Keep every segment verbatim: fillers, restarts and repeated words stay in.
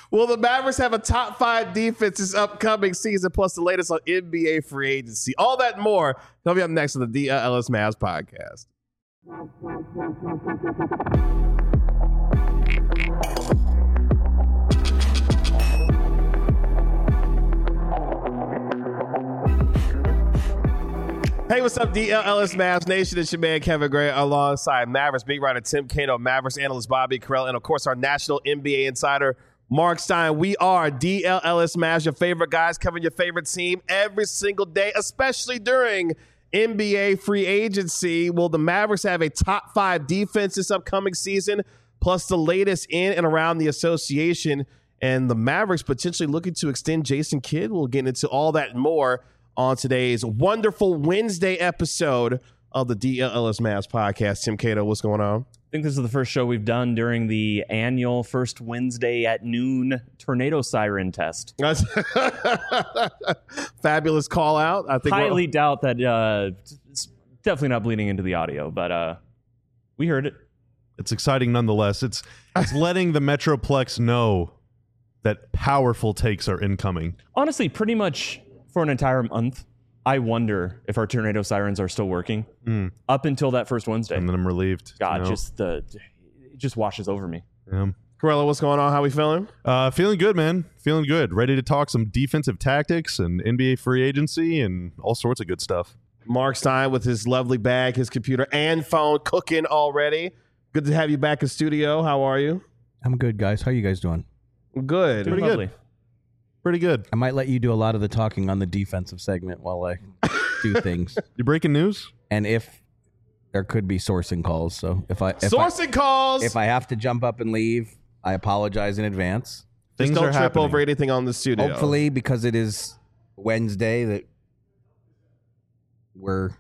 Will the Mavericks have a top five defense this upcoming season, plus the latest on N B A free agency? All that and more coming up next on the D L L S Mavs podcast. Hey, what's up, D L L S Mavs Nation? It's your man, Kevin Gray, alongside Mavericks beat writer Tim Cato, Mavericks analyst Bobby Carell, and, of course, our national N B A insider, Mark Stein. We are D L L S Mavs, your favorite guys covering your favorite team every single day, especially during N B A free agency. Will the Mavericks have a top five defense this upcoming season, plus the latest in and around the association, and the Mavericks potentially looking to extend Jason Kidd? We'll get into all that and more on today's wonderful Wednesday episode of the D L L S Mavs podcast. Tim Cato, what's going on? I think this is the first show we've done during the annual first Wednesday at noon tornado siren test. Fabulous call out. I think highly doubt that uh, it's definitely not bleeding into the audio, but uh, we heard it. It's exciting nonetheless. It's it's letting the Metroplex know that powerful takes are incoming. Honestly, pretty much for an entire month, I wonder if our tornado sirens are still working mm. up until that first Wednesday. And then I'm relieved. God, you know? just the it just washes over me. Yeah. Corella, what's going on? How we feeling? Uh, feeling good, man. Feeling good. Ready to talk some defensive tactics and N B A free agency and all sorts of good stuff. Mark Stein with his lovely bag, his computer, and phone cooking already. Good to have you back in studio. How are you? I'm good, guys. How are you guys doing? Good. Pretty Lovely. good. Pretty good. I might let you do a lot of the talking on the defensive segment while I do things. You breaking news? And if there could be sourcing calls, so if I if sourcing I, calls. If I have to jump up and leave, I apologize in advance. Just Things don't are trip happening. over anything on the studio. Hopefully, because it is Wednesday, that we're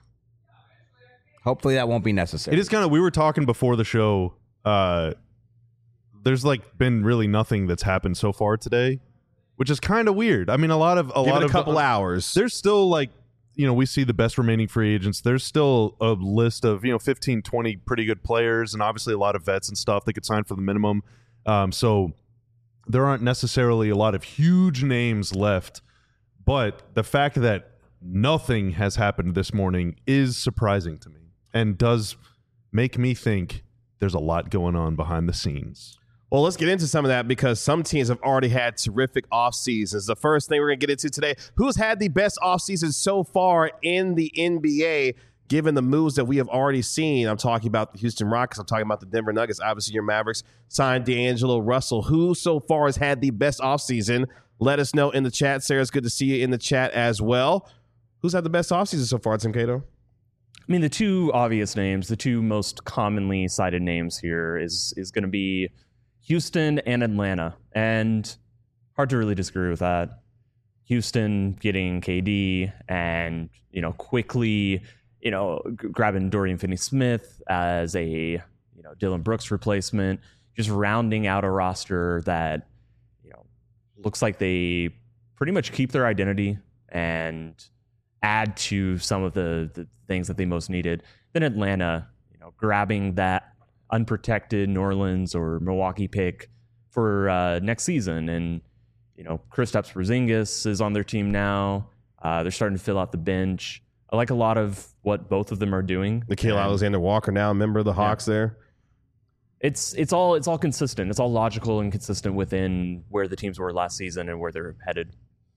hopefully that won't be necessary. It is kind of. We were talking before the show. Uh, there's like been really nothing that's happened so far today, which is kind of weird. I mean, a lot of a Give lot it a of couple uh, hours. There's still like, you know, we see the best remaining free agents. There's still a list of, you know, fifteen, twenty pretty good players, and obviously a lot of vets and stuff that could sign for the minimum. Um, so there aren't necessarily a lot of huge names left, but the fact that nothing has happened this morning is surprising to me and does make me think there's a lot going on behind the scenes. Well, let's get into some of that because some teams have already had terrific off seasons. The first thing we're going to get into today, who's had the best off season so far in the N B A, given the moves that we have already seen? I'm talking about the Houston Rockets. I'm talking about the Denver Nuggets. Obviously, your Mavericks signed D'Angelo Russell. Who so far has had the best off season? Let us know in the chat. Sarah, it's good to see you in the chat as well. Who's had the best off season so far, Tim Cato? I mean, the two obvious names, the two most commonly cited names here is is going to be Houston and Atlanta, and hard to really disagree with that. Houston getting K D and, you know, quickly, you know, g- grabbing Dorian Finney-Smith as a, you know, Dylan Brooks replacement, just rounding out a roster that, you know, looks like they pretty much keep their identity and add to some of the, the things that they most needed. Then Atlanta, you know, grabbing that unprotected New Orleans or Milwaukee pick for uh, next season. And, you know, Kristaps Porzingis is on their team now. Uh, they're starting to fill out the bench. I like a lot of what both of them are doing. Nikhil Alexander Walker now a member of the Hawks yeah. there. It's it's all it's all consistent. It's all logical and consistent within where the teams were last season and where they're headed.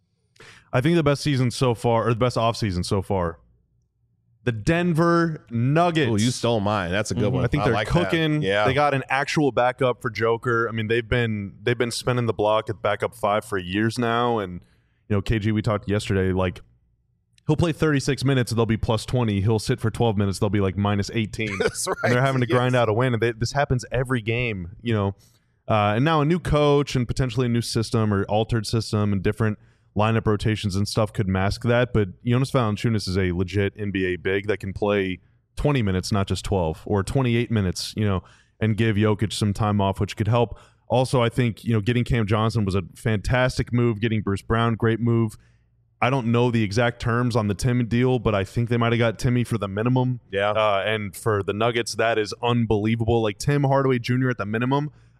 I think the best season so far, or the best offseason so far, the Denver Nuggets. Oh, you stole mine. That's a good mm-hmm. one. I think I they're like cooking. That. Yeah. They got an actual backup for Joker. I mean, they've been they've been spinning the block at backup five for years now. And, you know, K G, we talked yesterday, like, he'll play thirty-six minutes and they'll be plus twenty. He'll sit for twelve minutes. They'll be like minus eighteen. That's right. And they're having to yes. grind out a win. And they, this happens every game, you know. Uh, and now a new coach and potentially a new system or altered system and different lineup rotations and stuff could mask that. But Jonas Valanciunas is a legit N B A big that can play twenty minutes, not just twelve, or twenty-eight minutes, you know, and give Jokic some time off, which could help. Also, I think, you know, getting Cam Johnson was a fantastic move. Getting Bruce Brown, great move. I don't know the exact terms on the Tim deal, but I think they might have got Timmy for the minimum. Yeah. Uh, and for the Nuggets, that is unbelievable. Like Tim Hardaway Junior at the minimum,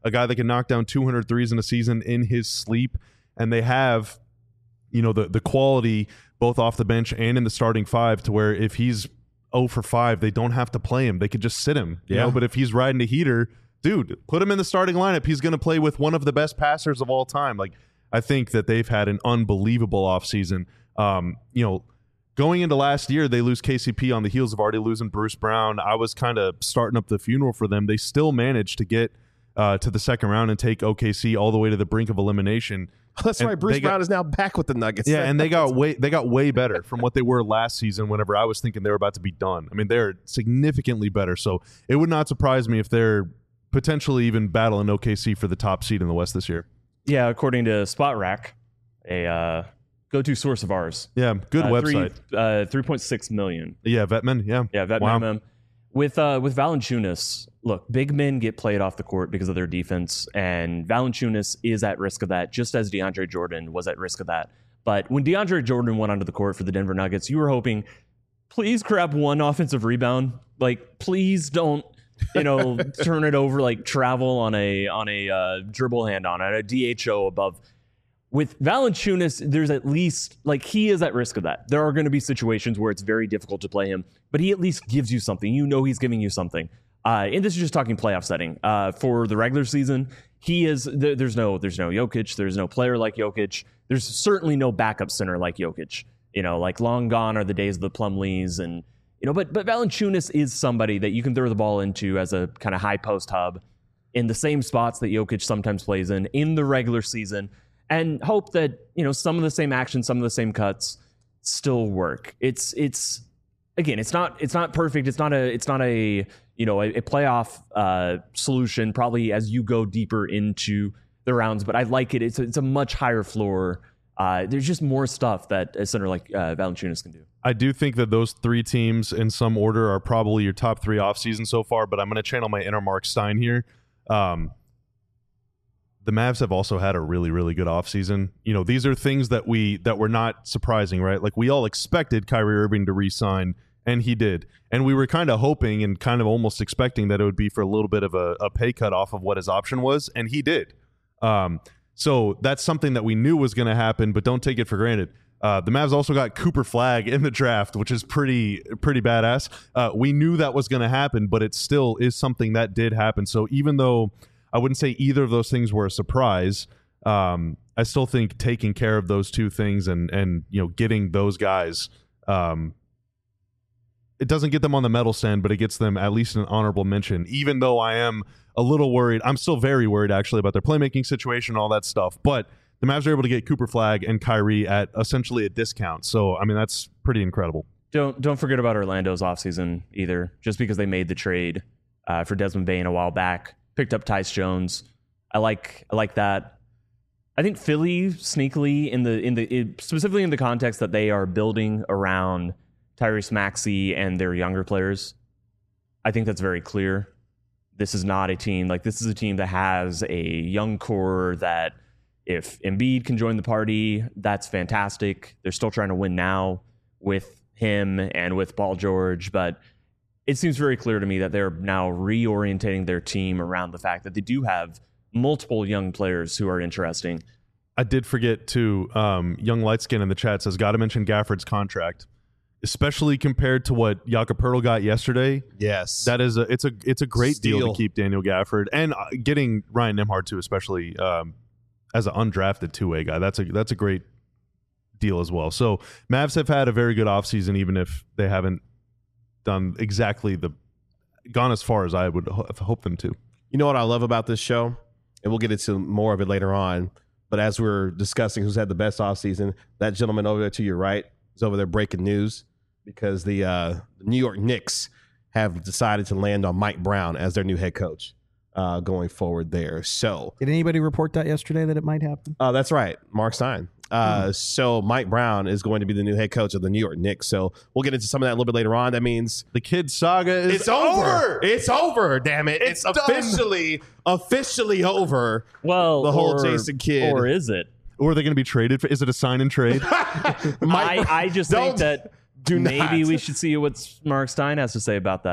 a guy that can knock down two hundred threes in a season in his sleep. And they have, you know, the, the quality both off the bench and in the starting five to where if he's oh for five, they don't have to play him. They could just sit him. You Yeah. know, but if he's riding a heater, dude, put him in the starting lineup. He's going to play with one of the best passers of all time. Like, I think that they've had an unbelievable offseason. Um, you know, going into last year, they lose K C P on the heels of already losing Bruce Brown. I was kind of starting up the funeral for them. They still managed to get uh, to the second round and take O K C all the way to the brink of elimination. That's And right. Bruce they got- Brown is now back with the Nuggets. Yeah, and they got way they got way better from what they were last season whenever I was thinking they were about to be done. I mean, they're significantly better. So it would not surprise me if they're potentially even battling O K C for the top seed in the West this year. Yeah, according to Spot Rack, a uh, go-to source of ours. Yeah, good uh, website. Three, uh, three point six million. Yeah, Vetman. Yeah. Yeah, vet Wow. minimum. With uh, with Valanciunas, look, big men get played off the court because of their defense, and Valanciunas is at risk of that, just as DeAndre Jordan was at risk of that. But when DeAndre Jordan went onto the court for the Denver Nuggets, you were hoping, please grab one offensive rebound. Like, please don't, you know, turn it over like travel on a on a uh, dribble hand on it, a D H O above. With Valanciunas, there's at least, like, he is at risk of that. There are going to be situations where it's very difficult to play him, but he at least gives you something. You know he's giving you something. Uh, and this is just talking playoff setting. Uh, for the regular season, he is, there, there's no there's no Jokic. There's no player like Jokic. There's certainly no backup center like Jokic. You know, like, long gone are the days of the Plumlees. And, you know, but, but Valanciunas is somebody that you can throw the ball into as a kind of high post hub in the same spots that Jokic sometimes plays in, in the regular season, and hope that, you know, some of the same actions, some of the same cuts still work. It's it's again, it's not it's not perfect. It's not a it's not a you know a, a playoff uh, solution probably as you go deeper into the rounds. But I like it. It's a, it's a much higher floor. Uh, there's just more stuff that a center like uh, Valanciunas can do. I do think that those three teams in some order are probably your top three offseason so far, but I'm going to channel my inner Mark Stein here. Um, the Mavs have also had a really, really good offseason. You know, these are things that we that were not surprising, right? Like, we all expected Kyrie Irving to re-sign, and he did. And we were kind of hoping and kind of almost expecting that it would be for a little bit of a, a pay cut off of what his option was, and he did. Um, so that's something that we knew was going to happen, but don't take it for granted. Uh, the Mavs also got Cooper Flagg in the draft, which is pretty pretty badass. Uh, we knew that was going to happen, but it still is something that did happen. So even though I wouldn't say either of those things were a surprise, um, I still think taking care of those two things and and you know getting those guys, um, it doesn't get them on the medal stand, but it gets them at least an honorable mention. Even though I am a little worried, I'm still very worried actually about their playmaking situation, all that stuff. But the Mavs are able to get Cooper Flagg and Kyrie at essentially a discount. So, I mean, that's pretty incredible. Don't don't forget about Orlando's offseason either. Just because they made the trade uh, for Desmond Bane a while back, picked up Tyce Jones. I like I like that. I think Philly sneakily in the in the it, specifically in the context that they are building around Tyrese Maxey and their younger players. I think that's very clear. This is not a team like this is a team that has a young core that, if Embiid can join the party, that's fantastic. They're still trying to win now with him and with Paul George, but it seems very clear to me that they're now reorientating their team around the fact that they do have multiple young players who are interesting. I did forget to, um, Young Lightskin in the chat says, got to mention Gafford's contract, especially compared to what Jakob Poeltl got yesterday. Yes. That is a, it's a, it's a great deal Steal. to keep Daniel Gafford and uh, getting Ryan Nembhard too, especially, um, as an undrafted two-way guy. That's a that's a great deal as well. So Mavs have had a very good offseason, even if they haven't done exactly the gone as far as I would ho- hope them to. You know what I love about this show? And we'll get into more of it later on. But as we're discussing who's had the best offseason, that gentleman over there to your right is over there breaking news because the, uh, the New York Knicks have decided to land on Mike Brown as their new head coach. Uh, going forward there. So Did anybody report that yesterday that it might happen? uh, that's right, Mark Stein. Uh, mm. So Mike Brown is going to be the new head coach of the New York Knicks. So we'll get into some of that a little bit later on. That means The kid saga is it's over. It's over. Damn it! It's, It's officially officially over. Well, The whole or- Jason Kidd. or is it? Or are they going to be traded? For, is it a sign and trade? Mike, I, I just don't- think that do maybe not. we should see what Mark Stein has to say about that.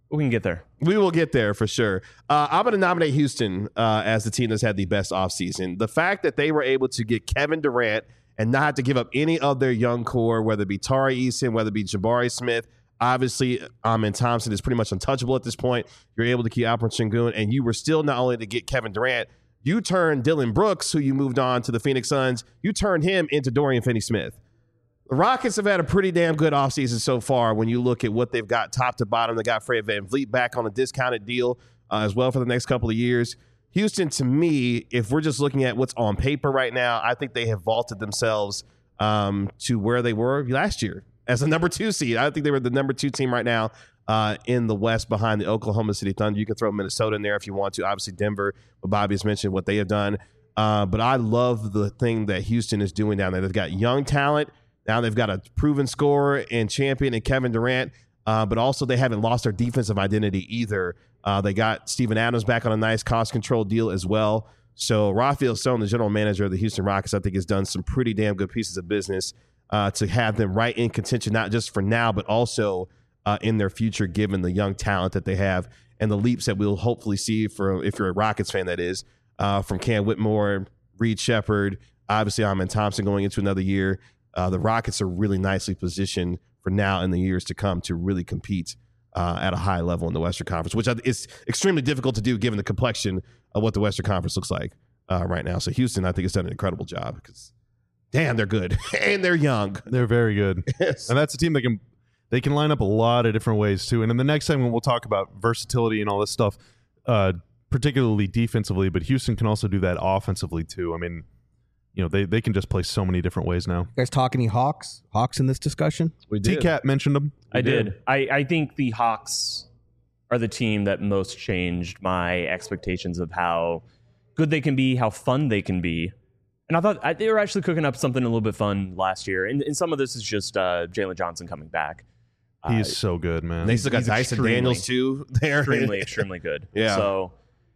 We can get there. We will get there for sure. Uh, I'm going to nominate Houston uh, as the team that's had the best offseason. The fact that they were able to get Kevin Durant and not have to give up any of their young core, whether it be Tari Eason, whether it be Jabari Smith. Obviously, Amen Thompson is pretty much untouchable at this point. You're able to keep Alperen Sengun, and you were still not only to get Kevin Durant, you turned Dylan Brooks, who you moved on to the Phoenix Suns, you turned him into Dorian Finney-Smith. The Rockets have had a pretty damn good offseason so far when you look at what they've got top to bottom. They got Fred VanVleet back on a discounted deal uh, as well for the next couple of years. Houston, to me, if we're just looking at what's on paper right now, I think they have vaulted themselves um, to where they were last year as a number two seed. I think they were the number two team right now uh, in the West behind the Oklahoma City Thunder. You can throw Minnesota in there if you want to. Obviously, Denver, what Bobby has mentioned, what they have done. Uh, but I love the thing that Houston is doing down there. They've got young talent. Now they've got a proven scorer and champion in Kevin Durant, uh, but also they haven't lost their defensive identity either. Uh, they got Steven Adams back on a nice cost control deal as well. So Rafael Stone, the general manager of the Houston Rockets, I think has done some pretty damn good pieces of business uh, to have them right in contention, not just for now, but also uh, in their future, given the young talent that they have and the leaps that we'll hopefully see for, if you're a Rockets fan, that is, uh, from Cam Whitmore, Reed Shepherd, obviously Amen Thompson going into another year. Uh, the Rockets are really nicely positioned for now and the years to come to really compete uh, at a high level in the Western Conference, which is extremely difficult to do given the complexion of what the Western Conference looks like uh, right now. So Houston, I think, has done an incredible job because, damn, they're good and they're young. They're very good, Yes. and that's a team that can they can line up a lot of different ways too. And in the next segment, we'll talk about versatility and all this stuff, uh, particularly defensively. But Houston can also do that offensively too. I mean, you know, they, they can just play so many different ways now. You guys talk any Hawks? Hawks in this discussion? We did. T-Cat mentioned them. I did. I, I think the Hawks are the team that most changed my expectations of how good they can be, how fun they can be. And I thought I, they were actually cooking up something a little bit fun last year. And, and some of this is just uh, Jalen Johnson coming back. He Uh, is so good, man. They still got He's Dyson extremely- Daniels, too. There. extremely, extremely good. Yeah. So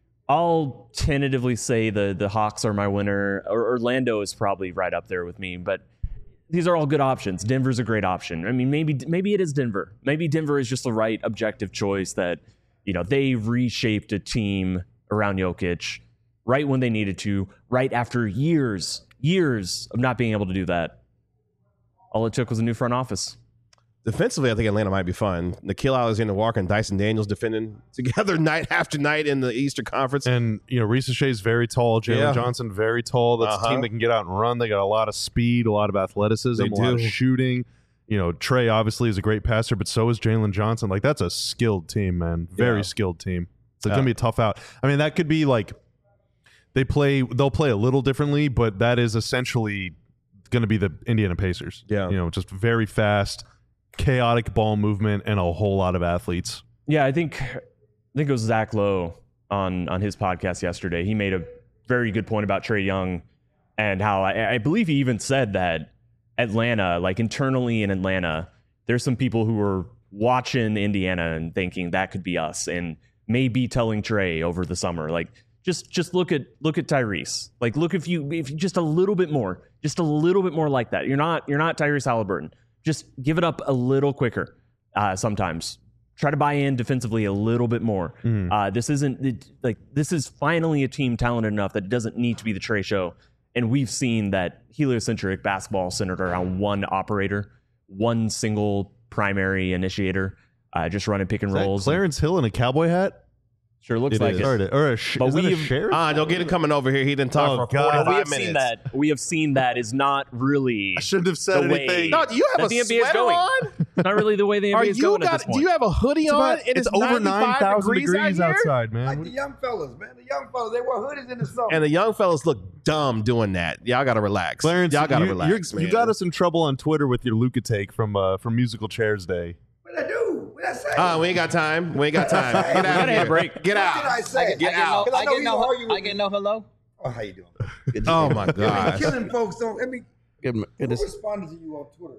I'll tentatively say the the Hawks are my winner. Or Orlando is probably right up there with me, but these are all good options. Denver's a great option. I mean, maybe maybe it is Denver. Maybe Denver is just the right objective choice that, you know, they reshaped a team around Jokic right when they needed to, right after years, years of not being able to do that. All it took was a new front office. Defensively, I think Atlanta might be fun. Nikhil Alexander-Walker and Dyson Daniels defending together night after night in the Eastern Conference. And, you know, Reese Shea's very tall. Jalen Yeah. Johnson, very tall. That's Uh-huh. a team that can get out and run. They got a lot of speed, a lot of athleticism, They a lot of do. shooting. You know, Trey obviously is a great passer, but so is Jalen Johnson. Like, that's a skilled team, man. Very Yeah. skilled team. It's Yeah. going to be a tough out. I mean, that could be like they play, they'll play a little differently, but that is essentially going to be the Indiana Pacers. Yeah. You know, just very fast, chaotic ball movement, and a whole lot of athletes. Yeah, I think I think it was Zach Lowe on on his podcast yesterday. He made a very good point about Trae Young and how I, I believe he even said that Atlanta, like internally in Atlanta, there's some people who are watching Indiana and thinking that could be us, and maybe telling Trae over the summer, like just just look at look at Tyrese, like look if you if you just a little bit more, just a little bit more like that. You're not you're not Tyrese Halliburton. Just give it up a little quicker uh, sometimes. Try to buy in defensively a little bit more. Mm. Uh, this isn't it, like this is finally a team talented enough that it doesn't need to be the Trae show. And we've seen that heliocentric basketball centered around one operator, one single primary initiator, uh, just running pick and Is that rolls. Clarence Hill in a cowboy hat? Sure looks It like is. it. Or, a- or a, sh- But is that a we've- sheriff? Ah, don't get him coming over here. He didn't talk Oh, for God. forty-five we have minutes. seen that. We have seen that is not really I shouldn't have said the way- anything. No, do you have that a the N B A is sweater going. on? not really the way the N Are B A is you going at got? this point. Do you have a hoodie It's, on? about, It it's is over ninety-five nine thousand degrees, degrees out here? outside, man. Like the young fellas, man. The young fellas, they wear hoodies in the summer. And the young fellas look dumb doing that. Y'all got to relax. Clarence, Y'all got to you, relax, you're- man. you got us in trouble on Twitter with your Luka take from uh, from Musical Chairs Day. What did I do? What did I say? Uh, we ain't got time. We ain't got time. Get out gotta of have here. a break. Get What out. did I say? Get I out. Because I, I know get you no, argue with I get me. no hello. Oh, how you doing? Good, Oh my You're gosh. killing folks on. Let me. good, Who goodness. responded to you on Twitter?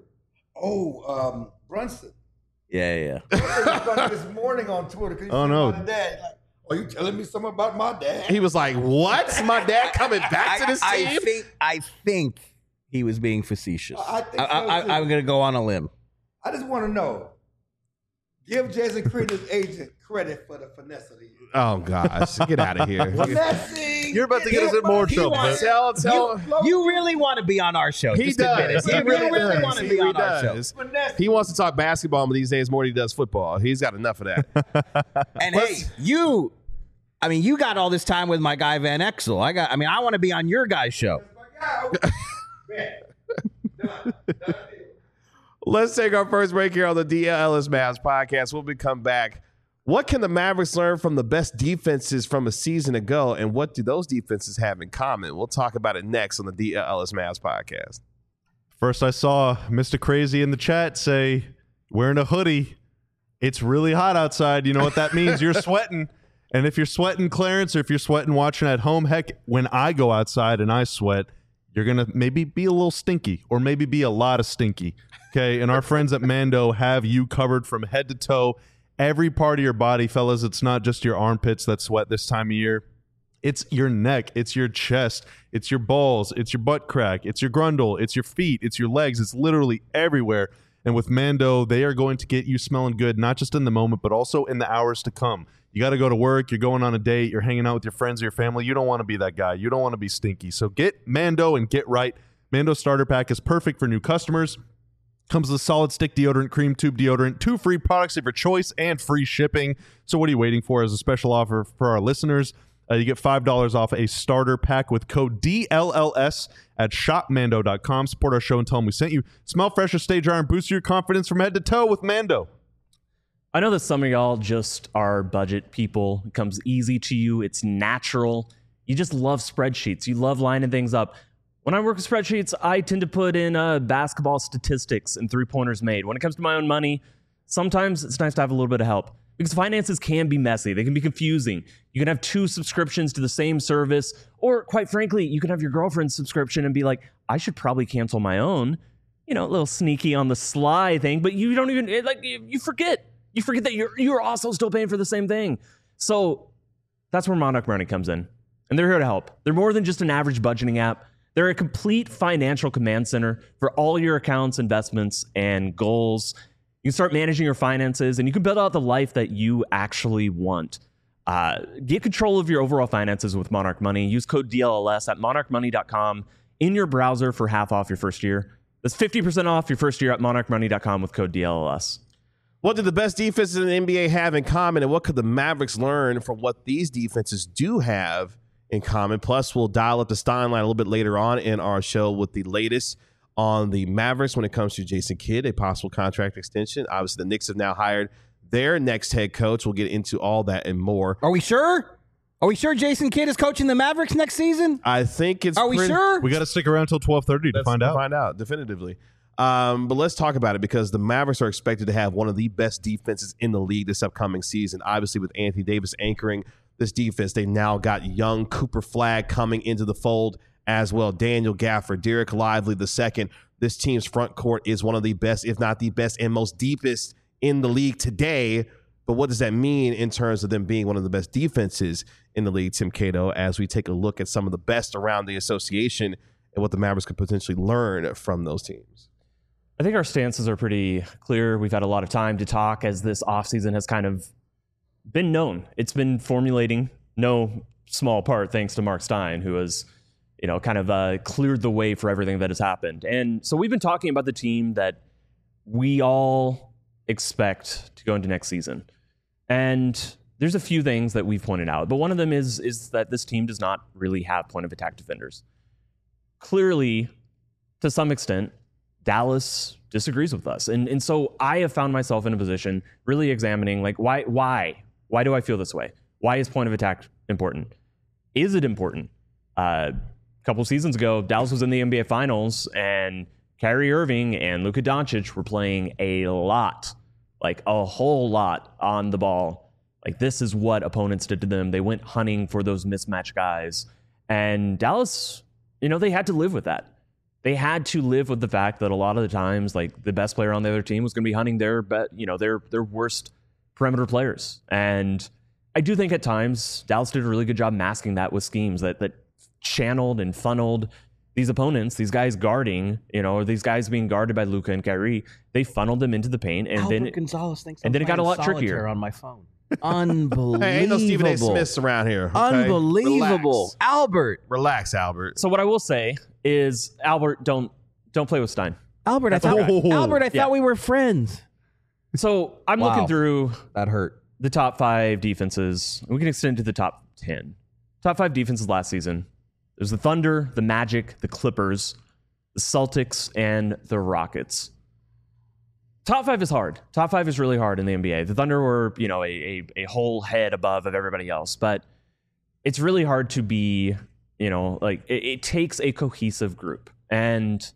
Oh, um, Brunson. Yeah, yeah. Brunson responded this morning on Twitter. 'cause he Oh, said no. about the dad. Like, are you telling me something about my dad? He was like, "What? My dad coming back to this I, team?" I think I think he was being facetious. I think I, so, I, too. I'm gonna go on a limb. I just want to know. Give Jason Creed his agent credit for the finesse of the year. Oh gosh, get out of here. Finessing. You're about to get us in more He trouble. wants- man. Tell, tell. You really want to be on our show. He Just admit does. it. He You really really does. want to He be really on our show. does. He wants to talk basketball these days more than he does football. He's got enough of that. And hey, you, I mean, you got all this time with my guy Van Exel. I got, I mean, I want to be on your guy's show. Let's take our first break here on the D L Ellis Mavs podcast. When we come back, what can the Mavericks learn from the best defenses from a season ago, and what do those defenses have in common? We'll talk about it next on the D L Ellis Mavs podcast. First, I saw Mister Crazy in the chat say, wearing a hoodie. It's really hot outside. You know what that means? You're sweating. And if you're sweating, Clarence, or if you're sweating watching at home, heck, when I go outside and I sweat, you're going to maybe be a little stinky or maybe be a lot of stinky. Okay. And our friends at Mando have you covered from head to toe. Every part of your body, fellas. It's not just your armpits that sweat this time of year. It's your neck. It's your chest. It's your balls. It's your butt crack. It's your grundle. It's your feet. It's your legs. It's literally everywhere. And with Mando, they are going to get you smelling good, not just in the moment, but also in the hours to come. You got to go to work. You're going on a date. You're hanging out with your friends or your family. You don't want to be that guy. You don't want to be stinky. So get Mando and get right. Mando Starter Pack is perfect for new customers. Comes with a solid stick deodorant, cream tube deodorant, two free products of your choice, and free shipping. So what are you waiting for? As a special offer for our listeners, uh, you get five dollars off a starter pack with code D L L S at shop mando dot com. Support our show and tell them we sent you. Smell fresher, stay dry, and boost your confidence from head to toe with Mando. I know that some of y'all just are budget people. It comes easy to you. It's natural. You just love spreadsheets. You love lining things up. When I work with spreadsheets, I tend to put in uh, basketball statistics and three-pointers made. When it comes to my own money, sometimes it's nice to have a little bit of help because finances can be messy. They can be confusing. You can have two subscriptions to the same service, or quite frankly, you can have your girlfriend's subscription and be like, I should probably cancel my own. You know, a little sneaky on the sly thing, but you don't even, it, like, you, you forget. You forget that you're, you're also still paying for the same thing. So that's where Monarch Money comes in. And they're here to help. They're more than just an average budgeting app. They're a complete financial command center for all your accounts, investments, and goals. You can start managing your finances, and you can build out the life that you actually want. Uh, get control of your overall finances with Monarch Money. Use code D L L S at monarch money dot com in your browser for half off your first year. That's fifty percent off your first year at monarch money dot com with code D L L S. What do the best defenses in the N B A have in common, and what could the Mavericks learn from what these defenses do have in common? Plus, we'll dial up the Stein line a little bit later on in our show with the latest on the Mavericks when it comes to Jason Kidd, a possible contract extension. Obviously, the Knicks have now hired their next head coach. We'll get into all that and more. Are we sure? Are we sure Jason Kidd is coaching the Mavericks next season? I think it's Are we pretty- sure? We got to stick around until twelve thirty to Let's find out. Find out definitively. Um, but let's talk about it because the Mavericks are expected to have one of the best defenses in the league this upcoming season. Obviously, with Anthony Davis anchoring this defense, they now got young Cooper Flagg coming into the fold as well. Daniel Gafford, Derek Lively the second. This team's front court is one of the best, if not the best, and most deepest in the league today. But what does that mean in terms of them being one of the best defenses in the league, Tim Cato, as we take a look at some of the best around the association and what the Mavericks could potentially learn from those teams? I think our stances are pretty clear. We've had a lot of time to talk as this offseason has kind of been known. It's been formulating, no small part thanks to Mark Stein, who has, you know, kind of uh, cleared the way for everything that has happened. And so we've been talking about the team that we all expect to go into next season. And there's a few things that we've pointed out, but one of them is is that this team does not really have point of attack defenders. Clearly, to some extent, Dallas disagrees with us. And and so I have found myself in a position really examining, like, why, why, why do I feel this way? Why is point of attack important? Is it important? Uh, a couple seasons ago, Dallas was in the N B A Finals and Kyrie Irving and Luka Doncic were playing a lot, like a whole lot on the ball. Like, this is what opponents did to them. They went hunting for those mismatch guys. And Dallas, you know, they had to live with that. They had to live with the fact that a lot of the times, like, the best player on the other team was going to be hunting their, bet, you know, their their worst perimeter players. And I do think at times Dallas did a really good job masking that with schemes that that channeled and funneled these opponents, these guys guarding, you know, or these guys being guarded by Luka and Kyrie, they funneled them into the paint, and Albert then Gonzalez thinks and I'm then it got a playing lot trickier solitaire on my phone. Unbelievable. Hey, ain't no Stephen A. Smiths around here. Okay? Unbelievable. Relax. Albert. Relax, Albert. So what I will say is, Albert, don't don't play with Stein. Albert, I That's thought, okay. Albert, I Yeah. thought we were friends. So I'm Wow. looking through That hurt. the top five defenses. We can extend to the top ten. Top five defenses last season. There's the Thunder, the Magic, the Clippers, the Celtics, and the Rockets. Top five is hard. Top five is really hard in the N B A. The Thunder were, you know, a, a, a whole head above of everybody else, but it's really hard to be, you know, like it, it takes a cohesive group. And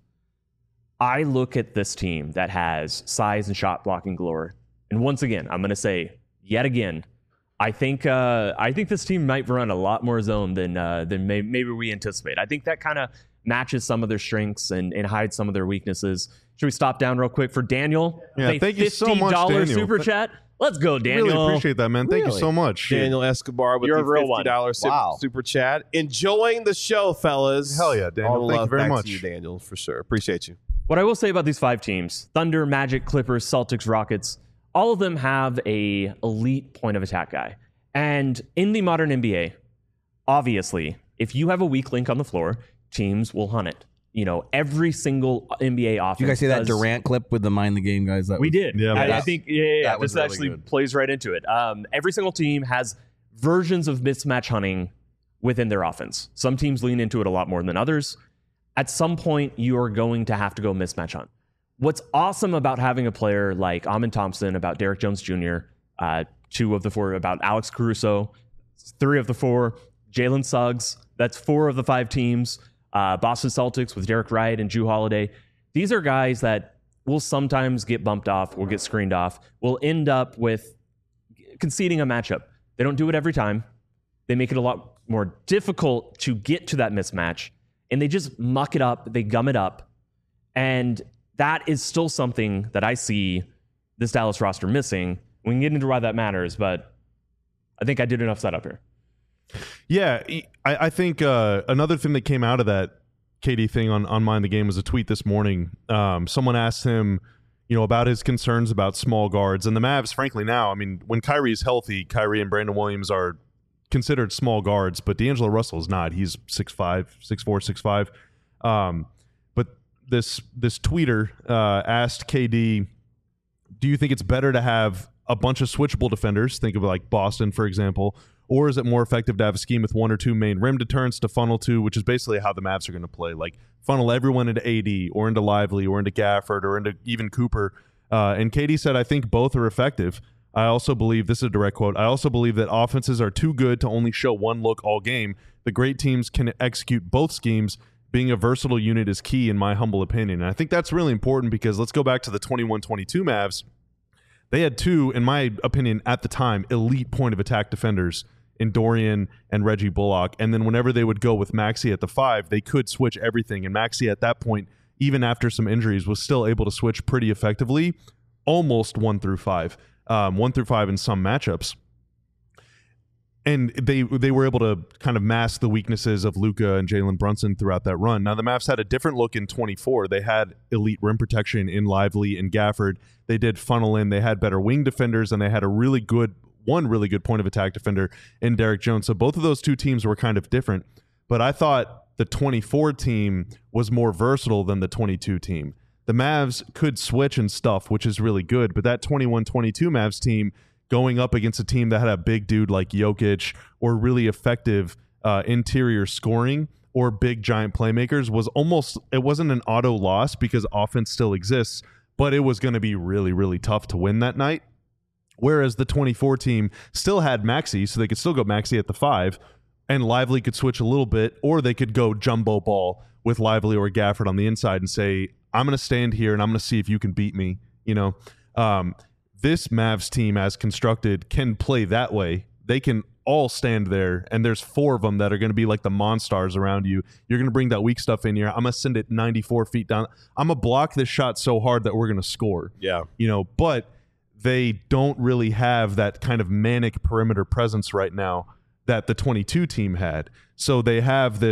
I look at this team that has size and shot blocking galore. And once again, I'm going to say yet again, I think uh, I think this team might run a lot more zone than uh, than may, maybe we anticipate. I think that kind of matches some of their strengths and, and hides some of their weaknesses. Should we stop down real quick for Daniel? Yeah, A thank you so much, fifty dollars Daniel. super chat. Let's go, Daniel. Really appreciate that, man. Thank you Really? so much. Daniel Escobar with You're a the real fifty dollars super, Wow. super chat. Enjoying the show, fellas. Hell yeah, Daniel. All the Thank you love very back much. to you, Daniel, for sure. Appreciate you. What I will say about these five teams, Thunder, Magic, Clippers, Celtics, Rockets, all of them have a elite point of attack guy. And in the modern N B A, obviously, if you have a weak link on the floor, teams will hunt it. You know, every single N B A offense. Did you guys see that does- Durant clip with the mind the game guys? That We was- did. Yeah, I, I that- think yeah, yeah, yeah. that was This really actually good. plays right into it. Um, every single team has versions of mismatch hunting within their offense. Some teams lean into it a lot more than others. At some point, you are going to have to go mismatch hunt. What's awesome about having a player like Amin Thompson, about Derek Jones Junior, uh, two of the four, about Alex Caruso, three of the four, Jalen Suggs, that's four of the five teams, uh, Boston Celtics with Derek Wright and Jrue Holiday. These are guys that will sometimes get bumped off, will get screened off, will end up with conceding a matchup. They don't do it every time. They make it a lot more difficult to get to that mismatch, and they just muck it up. They gum it up. And that is still something that I see this Dallas roster missing. We can get into why that matters, but I think I did enough setup here. Yeah, I, I think uh, another thing that came out of that K D thing on, on Mind the Game was a tweet this morning. Um, someone asked him, you know, about his concerns about small guards. And the Mavs, frankly, now, I mean, when Kyrie's healthy, Kyrie and Brandon Williams are considered small guards, but D'Angelo Russell is not. He's six five, six four, six five. Um, but this this tweeter uh, asked K D, do you think it's better to have a bunch of switchable defenders, think of like Boston, for example, or is it more effective to have a scheme with one or two main rim deterrents to funnel to, which is basically how the Mavs are going to play, like funnel everyone into A D or into Lively or into Gafford or into even Cooper. Uh, and K D said, I think both are effective. I also believe, this is a direct quote, I also believe that offenses are too good to only show one look all game. The great teams can execute both schemes. Being a versatile unit is key in my humble opinion. And I think that's really important because let's go back to the twenty-one twenty-two Mavs. They had two, in my opinion, at the time, elite point of attack defenders in Dorian and Reggie Bullock. And then whenever they would go with Maxey at the five, they could switch everything. And Maxey at that point, even after some injuries, was still able to switch pretty effectively, almost one through five, um, one through five in some matchups. And they they were able to kind of mask the weaknesses of Luka and Jalen Brunson throughout that run. Now, the Mavs had a different look in twenty-four. They had elite rim protection in Lively and Gafford. They did funnel in. They had better wing defenders, and they had a really good, one really good point of attack defender in Derek Jones. So both of those two teams were kind of different. But I thought the twenty-four team was more versatile than the twenty-two team. The Mavs could switch and stuff, which is really good. But that twenty-one twenty-two Mavs team, going up against a team that had a big dude like Jokic or really effective uh, interior scoring or big giant playmakers, was almost, it wasn't an auto loss because offense still exists, but it was going to be really, really tough to win that night. Whereas the twenty-four team still had Maxey, so they could still go Maxey at the five, and Lively could switch a little bit, or they could go jumbo ball with Lively or Gafford on the inside and say, I'm going to stand here and I'm going to see if you can beat me, you know. Um, This Mavs team, as constructed, can play that way. They can all stand there, and there's four of them that are going to be like the monsters around you. You're going to bring that weak stuff in here. I'm going to send it ninety-four feet down. I'm going to block this shot so hard that we're going to score. Yeah. You know, but they don't really have that kind of manic perimeter presence right now that the twenty-two team had. So they have this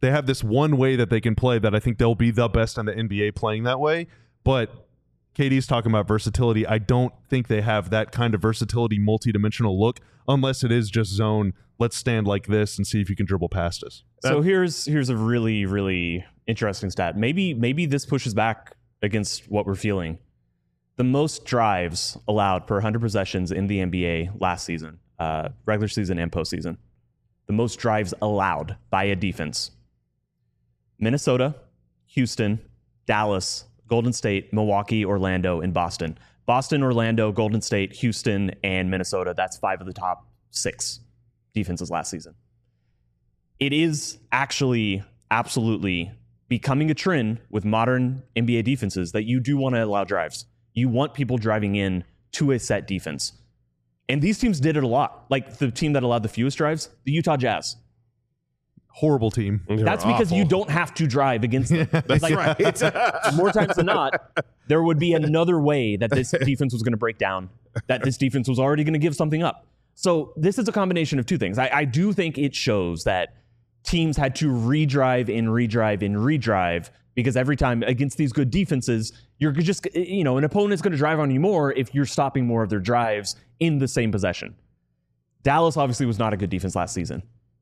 they have this one way that they can play that I think they'll be the best in the N B A playing that way. But K D's talking about versatility. I don't think they have that kind of versatility, multi-dimensional look, unless it is just zone. Let's stand like this and see if you can dribble past us. So here's here's a really, really interesting stat. Maybe maybe this pushes back against what we're feeling. The most drives allowed per one hundred possessions in the N B A last season, uh, regular season and postseason. The most drives allowed by a defense. Minnesota, Houston, Dallas, Golden State, Milwaukee, Orlando, and Boston. Boston, Orlando, Golden State, Houston, and Minnesota. That's five of the top six defenses last season. It is actually absolutely becoming a trend with modern N B A defenses that you do want to allow drives. You want people driving in to a set defense. And these teams did it a lot. Like the team that allowed the fewest drives, the Utah Jazz. Horrible team. That's because awful. you don't have to drive against them. That's Like, right. more times than not, there would be another way that this defense was going to break down, that this defense was already going to give something up. So this is a combination of two things. I, I do think it shows that teams had to redrive and redrive and redrive because every time against these good defenses, you're just, you know, an opponent's going to drive on you more if you're stopping more of their drives in the same possession. Dallas obviously was not a good defense last season.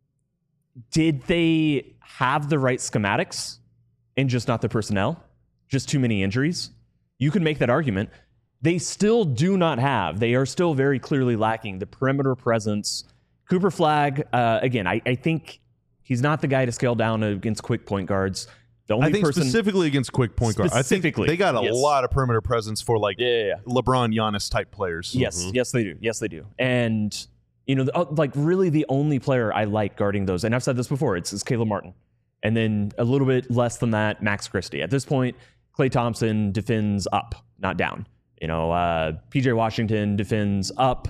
Did they have the right schematics and just not the personnel? Just too many injuries? You could make that argument. They still do not have, they are still very clearly lacking the perimeter presence. Cooper Flagg, uh, again, I, I think he's not the guy to scale down against quick point guards. The only I think person, specifically against quick point guard. I think Specifically, they got a yes. lot of perimeter presence for like Yeah, yeah, yeah. LeBron, Giannis type players. Yes, yes, they do. Yes, they do. And, you know, the, uh, like really the only player I like guarding those, and I've said this before, it's, it's Caleb Martin. And then a little bit less than that, Max Christie. At this point, Klay Thompson defends up, not down. You know, uh, P J Washington defends up,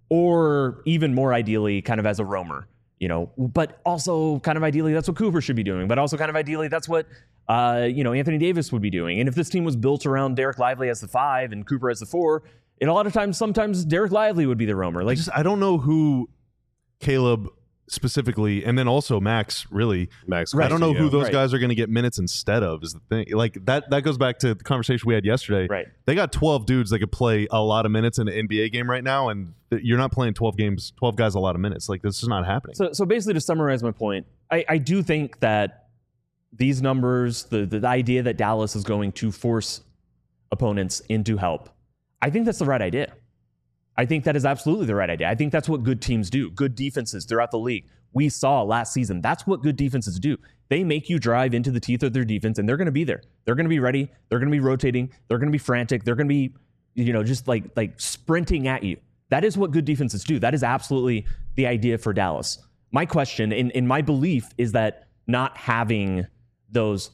or even more ideally, kind of as a roamer. You know, but also kind of ideally, that's what Cooper should be doing. But also kind of ideally, that's what, uh, you know, Anthony Davis would be doing. And if this team was built around Derek Lively as the five and Cooper as the four, and a lot of times, sometimes Derek Lively would be the roamer. I Like, just I don't know who Caleb specifically, and then also Max really. Max, I don't know yeah. who those Right. guys are going to get minutes instead of is the thing. Like that that goes back to the conversation we had yesterday. Right. They got twelve dudes that could play a lot of minutes in an N B A game right now, and th- you're not playing twelve games, twelve guys a lot of minutes. Like this is not happening. So, so basically, to summarize my point, I, I do think that these numbers, the, the idea that Dallas is going to force opponents into help, I think that's the right idea. I think that is absolutely the right idea. I think that's what good teams do. Good defenses throughout the league. We saw last season. That's what good defenses do. They make you drive into the teeth of their defense, and they're going to be there. They're going to be ready. They're going to be rotating. They're going to be frantic. They're going to be, you know, just like like sprinting at you. That is what good defenses do. That is absolutely the idea for Dallas. My question, in, in my belief, is that not having those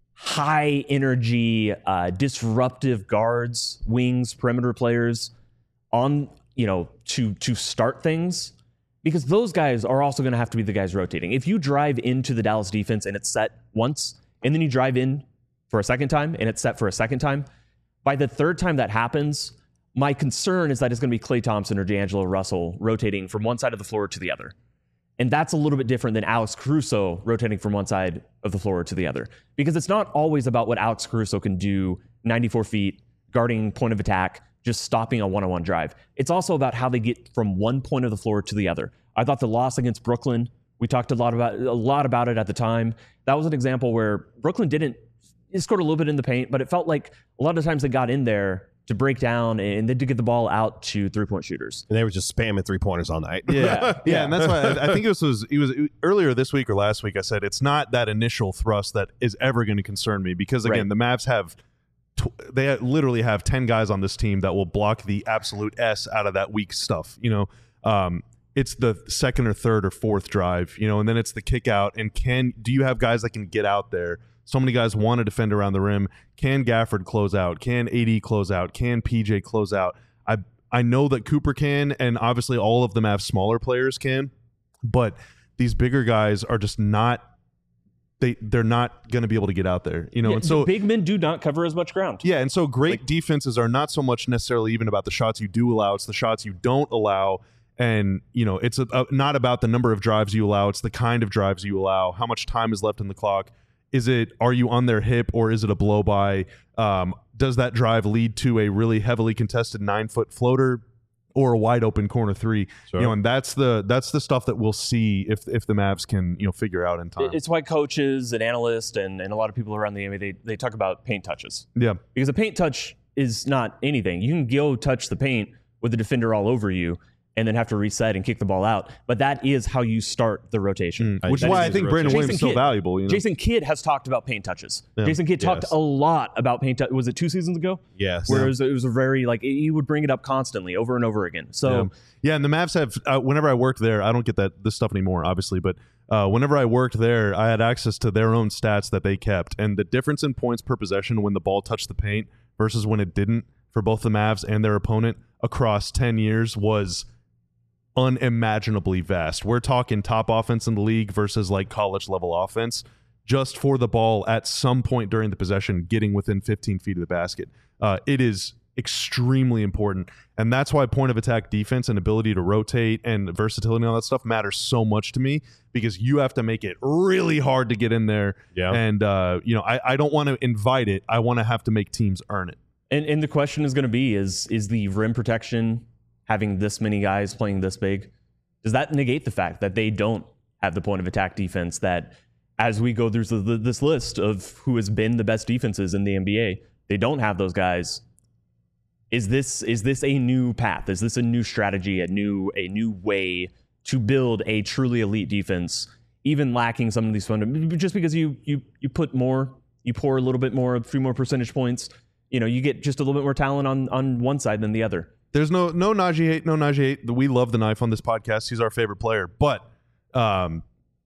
high energy, uh, disruptive guards, wings, perimeter players on, you know, to to start things, because those guys are also going to have to be the guys rotating. If you drive into the Dallas defense and it's set once, and then you drive in for a second time and it's set for a second time, by the third time that happens, my concern is that it's going to be Klay Thompson or D'Angelo Russell rotating from one side of the floor to the other. And that's a little bit different than Alex Caruso rotating from one side of the floor to the other. Because it's not always about what Alex Caruso can do ninety-four feet, guarding point of attack, just stopping a one-on-one drive. It's also about how they get from one point of the floor to the other. I thought the loss against Brooklyn, we talked a lot about a lot about it at the time. That was an example where Brooklyn didn't, it scored a little bit in the paint, but it felt like a lot of times they got in there to break down and then to get the ball out to three-point shooters. And they were just spamming three pointers all night. Yeah, yeah, and that's why I, I think it was, was it was earlier this week or last week. I said it's not that initial thrust that is ever going to concern me because again, Right. the Mavs have tw- they literally have ten guys on this team that will block the absolute S out of that weak stuff. You know, um, it's the second or third or fourth drive. You know, and then it's the kick out. And can do you have guys that can get out there? So many guys want to defend around the rim. Can Gafford close out? Can A D close out? Can P J close out? I I know that Cooper can, and obviously all of them have smaller players can, but these bigger guys are just not they they're not going to be able to get out there, you know. Yeah, and so big men do not cover as much ground. yeah, and so great defenses are not so much necessarily even about the shots you do allow; it's the shots you don't allow. And, you know, it's a, a, not about the number of drives you allow. It's the kind of drives you allow. How much time is left in the clock? Is it, are you on their hip or is it a blow by? Um, does that drive lead to a really heavily contested nine foot floater or a wide open corner three? Sure. You know, and that's the that's the stuff that we'll see if if the Mavs can, you know, figure out in time. It's why coaches and analysts and, and a lot of people around the N B A, they, they talk about paint touches. Yeah. Because a paint touch is not anything. You can go touch the paint with the defender all over you and then have to reset and kick the ball out. But that is how you start the rotation. Mm. Which is why I think Brandon Williams is so valuable. You know? Jason Kidd has talked about paint touches. Yeah. Jason Kidd talked Yes. a lot about paint touches. Was it two seasons ago? Yes. Where Yeah. it, was, it was a very, like, he would bring it up constantly over and over again. So, Yeah. yeah, and the Mavs have, uh, whenever I worked there, I don't get that this stuff anymore, obviously, but uh, whenever I worked there, I had access to their own stats that they kept. And the difference in points per possession when the ball touched the paint versus when it didn't for both the Mavs and their opponent across ten years was unimaginably vast. We're talking top offense in the league versus like college level offense just for the ball at some point during the possession getting within fifteen feet of the basket. Uh, it is extremely important, and that's why point of attack defense and ability to rotate and versatility and all that stuff matters so much to me, because you have to make it really hard to get in there. Yeah. And uh, you know, I, I don't want to invite it. I want to have to make teams earn it. and, and the question is going to be, is is the rim protection, having this many guys playing this big, does that negate the fact that they don't have the point of attack defense that, as we go through the, this list of who has been the best defenses in the N B A, they don't have those guys? Is this is this a new path? Is this a new strategy, a new a new way to build a truly elite defense, even lacking some of these fundamentals? Just because you you you put more, you pour a little bit more, a few more percentage points, you know, you get just a little bit more talent on on one side than the other. There's no no Najee hate, no Najee hate. We love the knife on this podcast. He's our favorite player, but um,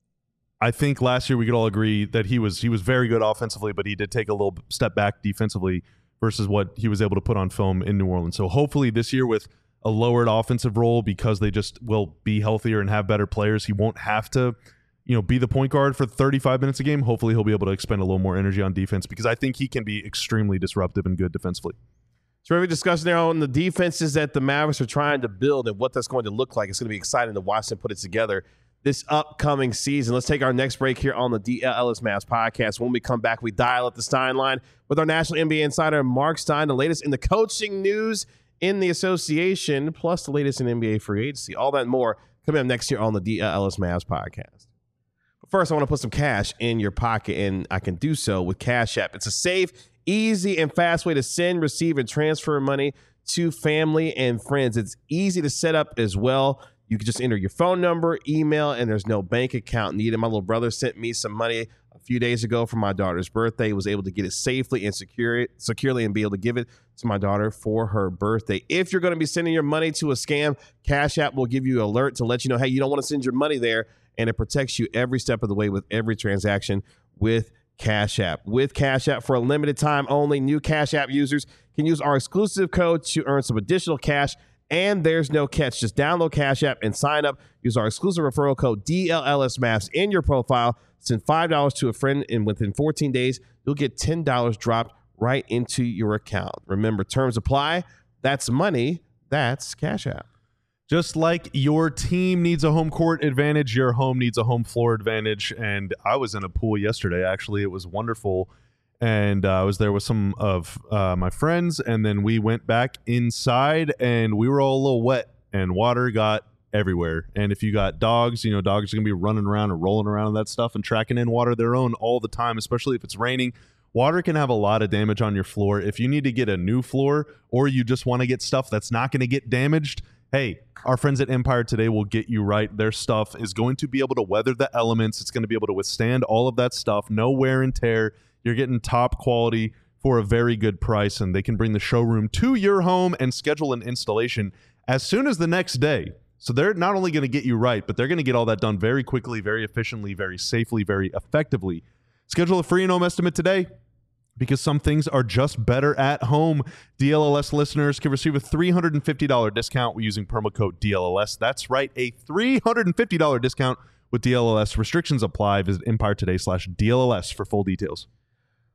I think last year we could all agree that he was he was very good offensively, but he did take a little step back defensively versus what he was able to put on film in New Orleans. So hopefully this year, with a lowered offensive role, because they just will be healthier and have better players, he won't have to, you know, be the point guard for thirty-five minutes a game. Hopefully he'll be able to expend a little more energy on defense, because I think he can be extremely disruptive and good defensively. Terrific discussion there on the defenses that the Mavericks are trying to build and what that's going to look like. It's going to be exciting to watch them put it together this upcoming season. Let's take our next break here on the D L L S Mavs podcast. When we come back, we dial up the Stein line with our national N B A insider, Mark Stein, the latest in the coaching news in the association, plus the latest in N B A free agency. All that and more coming up next here on the D L L S Mavs podcast. But first, I want to put some cash in your pocket, and I can do so with Cash App. It's a safe, easy, and fast way to send, receive, and transfer money to family and friends. It's easy to set up as well. You can just enter your phone number, email, and there's no bank account needed. My little brother sent me some money a few days ago for my daughter's birthday. He was able to get it safely and secure it, securely and be able to give it to my daughter for her birthday. If you're going to be sending your money to a scam, Cash App will give you an alert to let you know, hey, you don't want to send your money there, and it protects you every step of the way with every transaction with Cash App. With Cash App, for a limited time only, new Cash App users can use our exclusive code to earn some additional cash. And there's no catch. Just download Cash App and sign up. Use our exclusive referral code D L L S Mavs in your profile. Send five dollars to a friend, and within fourteen days, you'll get ten dollars dropped right into your account. Remember, terms apply. That's money. That's Cash App. Just like your team needs a home court advantage, your home needs a home floor advantage. And I was in a pool yesterday, actually. It was wonderful. And uh, I was there with some of uh, my friends, and then we went back inside, and we were all a little wet, and water got everywhere. And if you got dogs, you know, dogs are going to be running around and rolling around and that stuff and tracking in water of their own all the time, especially if it's raining. Water can have a lot of damage on your floor. If you need to get a new floor, or you just want to get stuff that's not going to get damaged, hey, our friends at Empire Today will get you right. Their stuff is going to be able to weather the elements. It's going to be able to withstand all of that stuff. No wear and tear. You're getting top quality for a very good price, and they can bring the showroom to your home and schedule an installation as soon as the next day. So they're not only going to get you right, but they're going to get all that done very quickly, very efficiently, very safely, very effectively. Schedule a free in-home estimate today, because some things are just better at home. D L L S listeners can receive a three hundred fifty dollars discount using promo code D L L S. That's right, a three hundred fifty dollars discount with D L L S. Restrictions apply. Visit Empire Today slash D L L S for full details.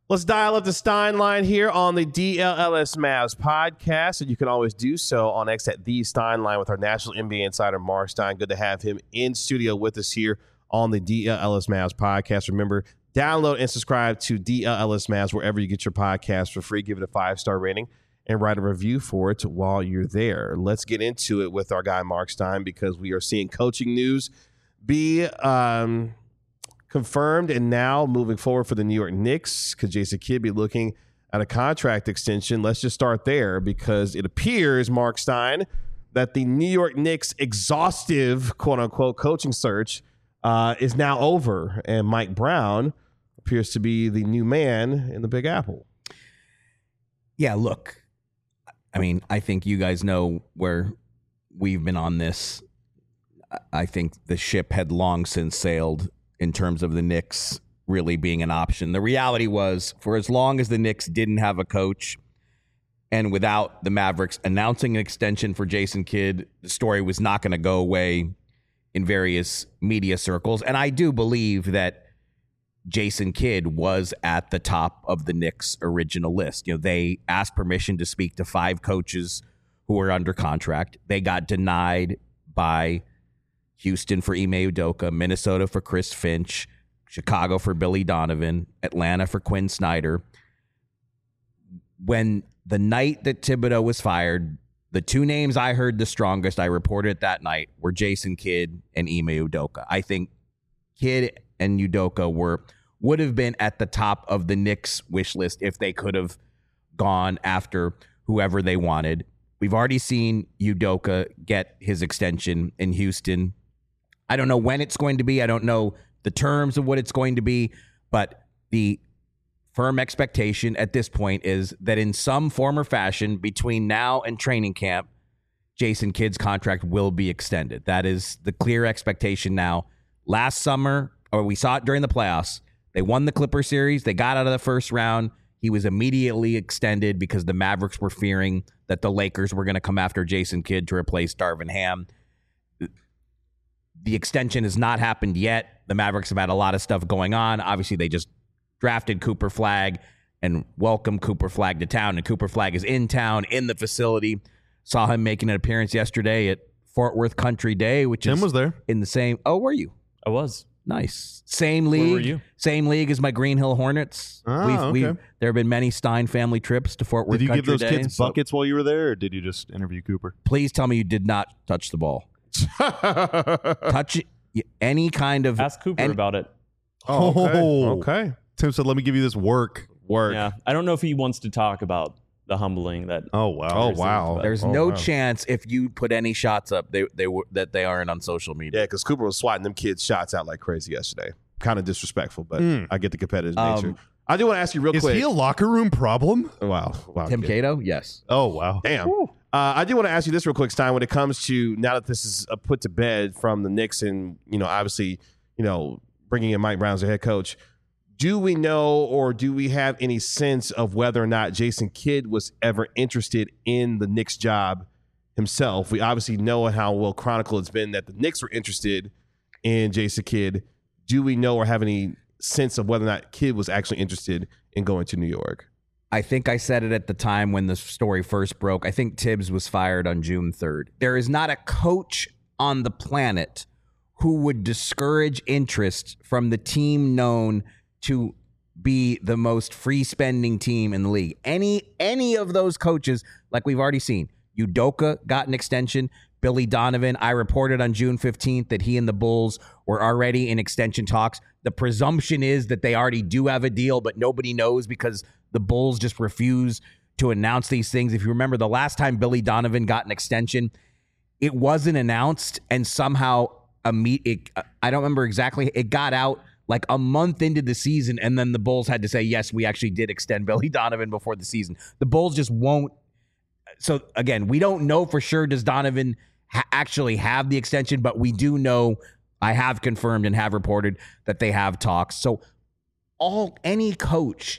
Let's dial up the Stein line here on the D L L S Mavs podcast, and you can always do so on X at the Stein line with our national N B A insider, Mark Stein. Good to have him in studio with us here on the D L L S Mavs podcast. Remember, download and subscribe to D L L S Mavs wherever you get your podcast for free. Give it a five-star rating and write a review for it while you're there. Let's get into it with our guy, Mark Stein, because we are seeing coaching news be um, confirmed and now moving forward for the New York Knicks. Could Jason Kidd be looking at a contract extension? Let's just start there because it appears, Mark Stein, that the New York Knicks exhaustive, quote-unquote, coaching search uh, is now over, and Mike Brown appears to be the new man in the Big Apple. Yeah, look, I mean, I think you guys know where we've been on this. I think the ship had long since sailed in terms of the Knicks really being an option. The reality was, for as long as the Knicks didn't have a coach and without the Mavericks announcing an extension for Jason Kidd, the story was not going to go away in various media circles. And I do believe that Jason Kidd was at the top of the Knicks' original list. You know, they asked permission to speak to five coaches who were under contract. They got denied by Houston for Ime Udoka, Minnesota for Chris Finch, Chicago for Billy Donovan, Atlanta for Quinn Snyder. When the night that Thibodeau was fired, the two names I heard the strongest, I reported that night, were Jason Kidd and Ime Udoka. I think Kidd and Udoka were would have been at the top of the Knicks wish list if they could have gone after whoever they wanted. We've already seen Udoka get his extension in Houston. I don't know when it's going to be. I don't know the terms of what it's going to be, but the firm expectation at this point is that in some form or fashion between now and training camp, Jason Kidd's contract will be extended. That is the clear expectation now. Last summer, or we saw it during the playoffs, they won the Clipper series. They got out of the first round. He was immediately extended because the Mavericks were fearing that the Lakers were going to come after Jason Kidd to replace Darvin Ham. The extension has not happened yet. The Mavericks have had a lot of stuff going on. Obviously, they just drafted Cooper Flagg and welcomed Cooper Flagg to town. And Cooper Flagg is in town, in the facility. Saw him making an appearance yesterday at Fort Worth Country Day, which Tim is was there. in the same. Oh, were you? I was. Nice. Same league. were you? Same league as my Green Hill Hornets. Ah, we've, okay. we've, there have been many Stein family trips to Fort Worth Did you Country give those Day, kids so buckets while you were there, or did you just interview Cooper? Please tell me you did not touch the ball. Touch any kind of. Ask Cooper any- about it. Oh, okay. Oh. Okay. Tim said, let me give you this work. Work. Yeah, I don't know if he wants to talk about the humbling that. Oh, wow. Oh, wow. There's Oh, no wow. chance if you put any shots up, they they were that they aren't on social media. Yeah, because Cooper was swatting them kids' shots out like crazy yesterday. Kind of disrespectful, but Mm. I get the competitive Um, nature. I do want to ask you real Is quick. he a locker room problem? wow. Wow. Tim kid. Cato, yes. Oh, wow. Damn. Uh, I do want to ask you this real quick, Stein. When it comes to now that this is uh, put to bed from the Knicks and, you know, obviously, you know, bringing in Mike Brown as the head coach, do we know or do we have any sense of whether or not Jason Kidd was ever interested in the Knicks job himself? We obviously know how well chronicled it's been that the Knicks were interested in Jason Kidd. Do we know or have any sense of whether or not Kidd was actually interested in going to New York? I think I said it at the time when the story first broke. I think Tibbs was fired on June third. There is not a coach on the planet who would discourage interest from the team known to be the most free spending team in the league. Any any of those coaches, like we've already seen, Udoka got an extension. Billy Donovan, I reported on June fifteenth that he and the Bulls were already in extension talks. The presumption is that they already do have a deal, but nobody knows because the Bulls just refuse to announce these things. If you remember the last time Billy Donovan got an extension, it wasn't announced, and somehow a meet. It, I don't remember exactly. It got out like a month into the season, and then the Bulls had to say, yes, we actually did extend Billy Donovan before the season. The Bulls just won't. So, again, we don't know for sure does Donovan ha- actually have the extension, but we do know, I have confirmed and have reported that they have talks. So all any coach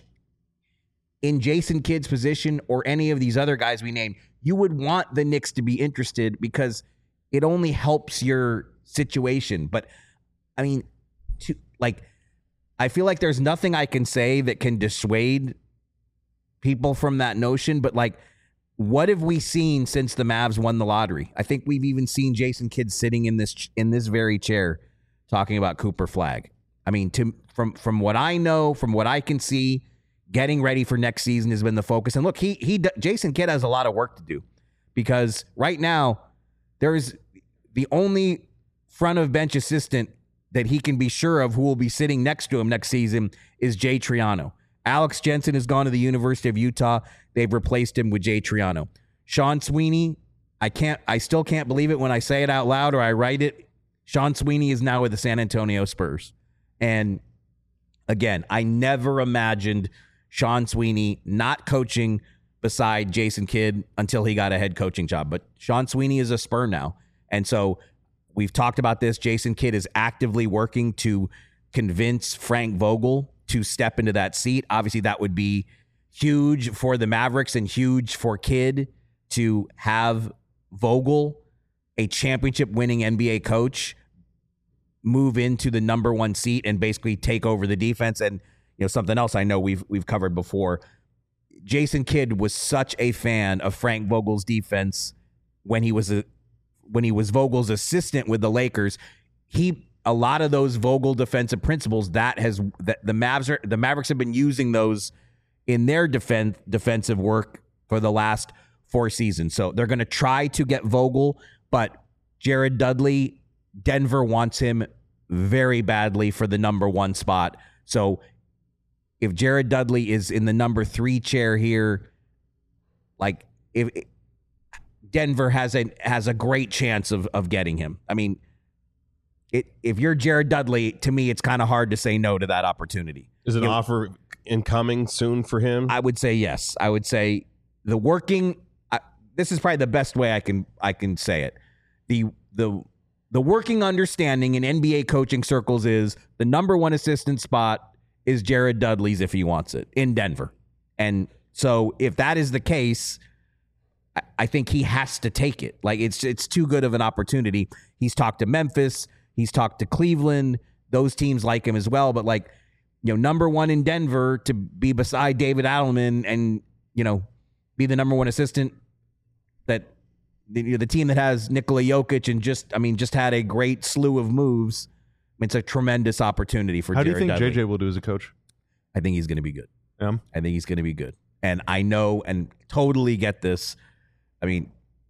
in Jason Kidd's position or any of these other guys we named, you would want the Knicks to be interested because it only helps your situation. But, I mean, to like I feel like there's nothing I can say that can dissuade people from that notion. But like, what have we seen since the Mavs won the lottery? I think we've even seen Jason Kidd sitting in this in this very chair talking about Cooper Flagg. I mean, to, from from what I know, from what I can see, getting ready for next season has been the focus. And look, he he Jason Kidd has a lot of work to do because right now there is the only front of bench assistant that he can be sure of who will be sitting next to him next season is Jay Triano. Alex Jensen has gone to the University of Utah. They've replaced him with Jay Triano. Sean Sweeney, I can't, I still can't believe it when I say it out loud or I write it. Sean Sweeney is now with the San Antonio Spurs. And again, I never imagined Sean Sweeney not coaching beside Jason Kidd until he got a head coaching job. But Sean Sweeney is a Spur now. And so we've talked about this. Jason Kidd is actively working to convince Frank Vogel to step into that seat. Obviously, that would be huge for the Mavericks and huge for Kidd to have Vogel, a championship-winning N B A coach, move into the number one seat and basically take over the defense. And you know something else I know we've we've covered before. Jason Kidd was such a fan of Frank Vogel's defense when he was a when he was Vogel's assistant with the Lakers. He a lot of those Vogel defensive principles that has that the Mavs are the Mavericks have been using those in their defense defensive work for the last four seasons. So they're going to try to get Vogel, but Jared Dudley, Denver wants him very badly for the number one spot. So if Jared Dudley is in the number three chair here, like if Denver has a has a great chance of of getting him. I mean, it if you're Jared Dudley, to me, it's kind of hard to say no to that opportunity. Is an You know, offer incoming soon for him? I would say yes. I would say the working. I, this is probably the best way I can I can say it. The the the working understanding in N B A coaching circles is the number one assistant spot is Jared Dudley's if he wants it in Denver, and so if that is the case, I, I think he has to take it. Like it's it's too good of an opportunity. He's talked to Memphis. He's talked to Cleveland. Those teams like him as well. But like, you know, number one in Denver to be beside David Adelman and, you know, be the number one assistant that the, the team that has Nikola Jokic and just, I mean, just had a great slew of moves. It's a tremendous opportunity for How Jared do you think Dudley. J J will do as a coach? I think he's going to be good. Yeah. I think he's going to be good. And I know and totally get this. I mean,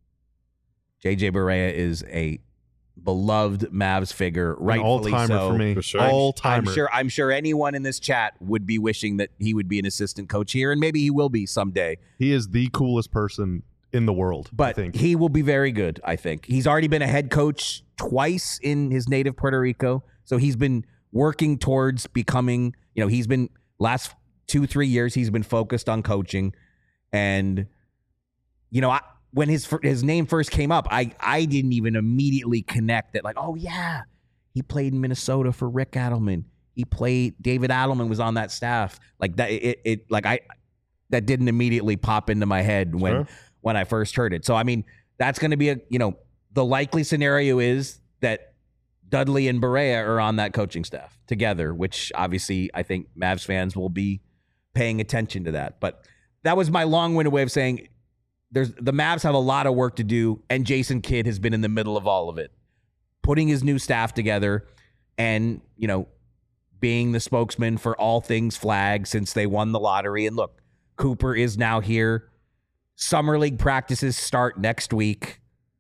J J Barea is a beloved Mavs figure, rightfully all-timer so. for me. For sure. I'm- All-timer. I'm sure. I'm sure anyone in this chat would be wishing that he would be an assistant coach here, and maybe he will be someday. He is the coolest person in the world, I But think. he will be very good. I think he's already been a head coach twice in his native Puerto Rico, so he's been working towards becoming. You know, he's been last two, three years. He's been focused on coaching, and you know, I, when his his name first came up, I I didn't even immediately connect that. Like, oh yeah, he played in Minnesota for Rick Adelman. He played David Adelman was on that staff. Like that, it, it like I that didn't immediately pop into my head when Sure. when I first heard it. So I mean, that's going to be a you know the likely scenario is that Dudley and Barea are on that coaching staff together, which obviously I think Mavs fans will be paying attention to that. But that was my long-winded way of saying there's the Mavs have a lot of work to do, and Jason Kidd has been in the middle of all of it, putting his new staff together and, you know, being the spokesman for all things Flag since they won the lottery. And look, Cooper is now here. Summer League practices start next week.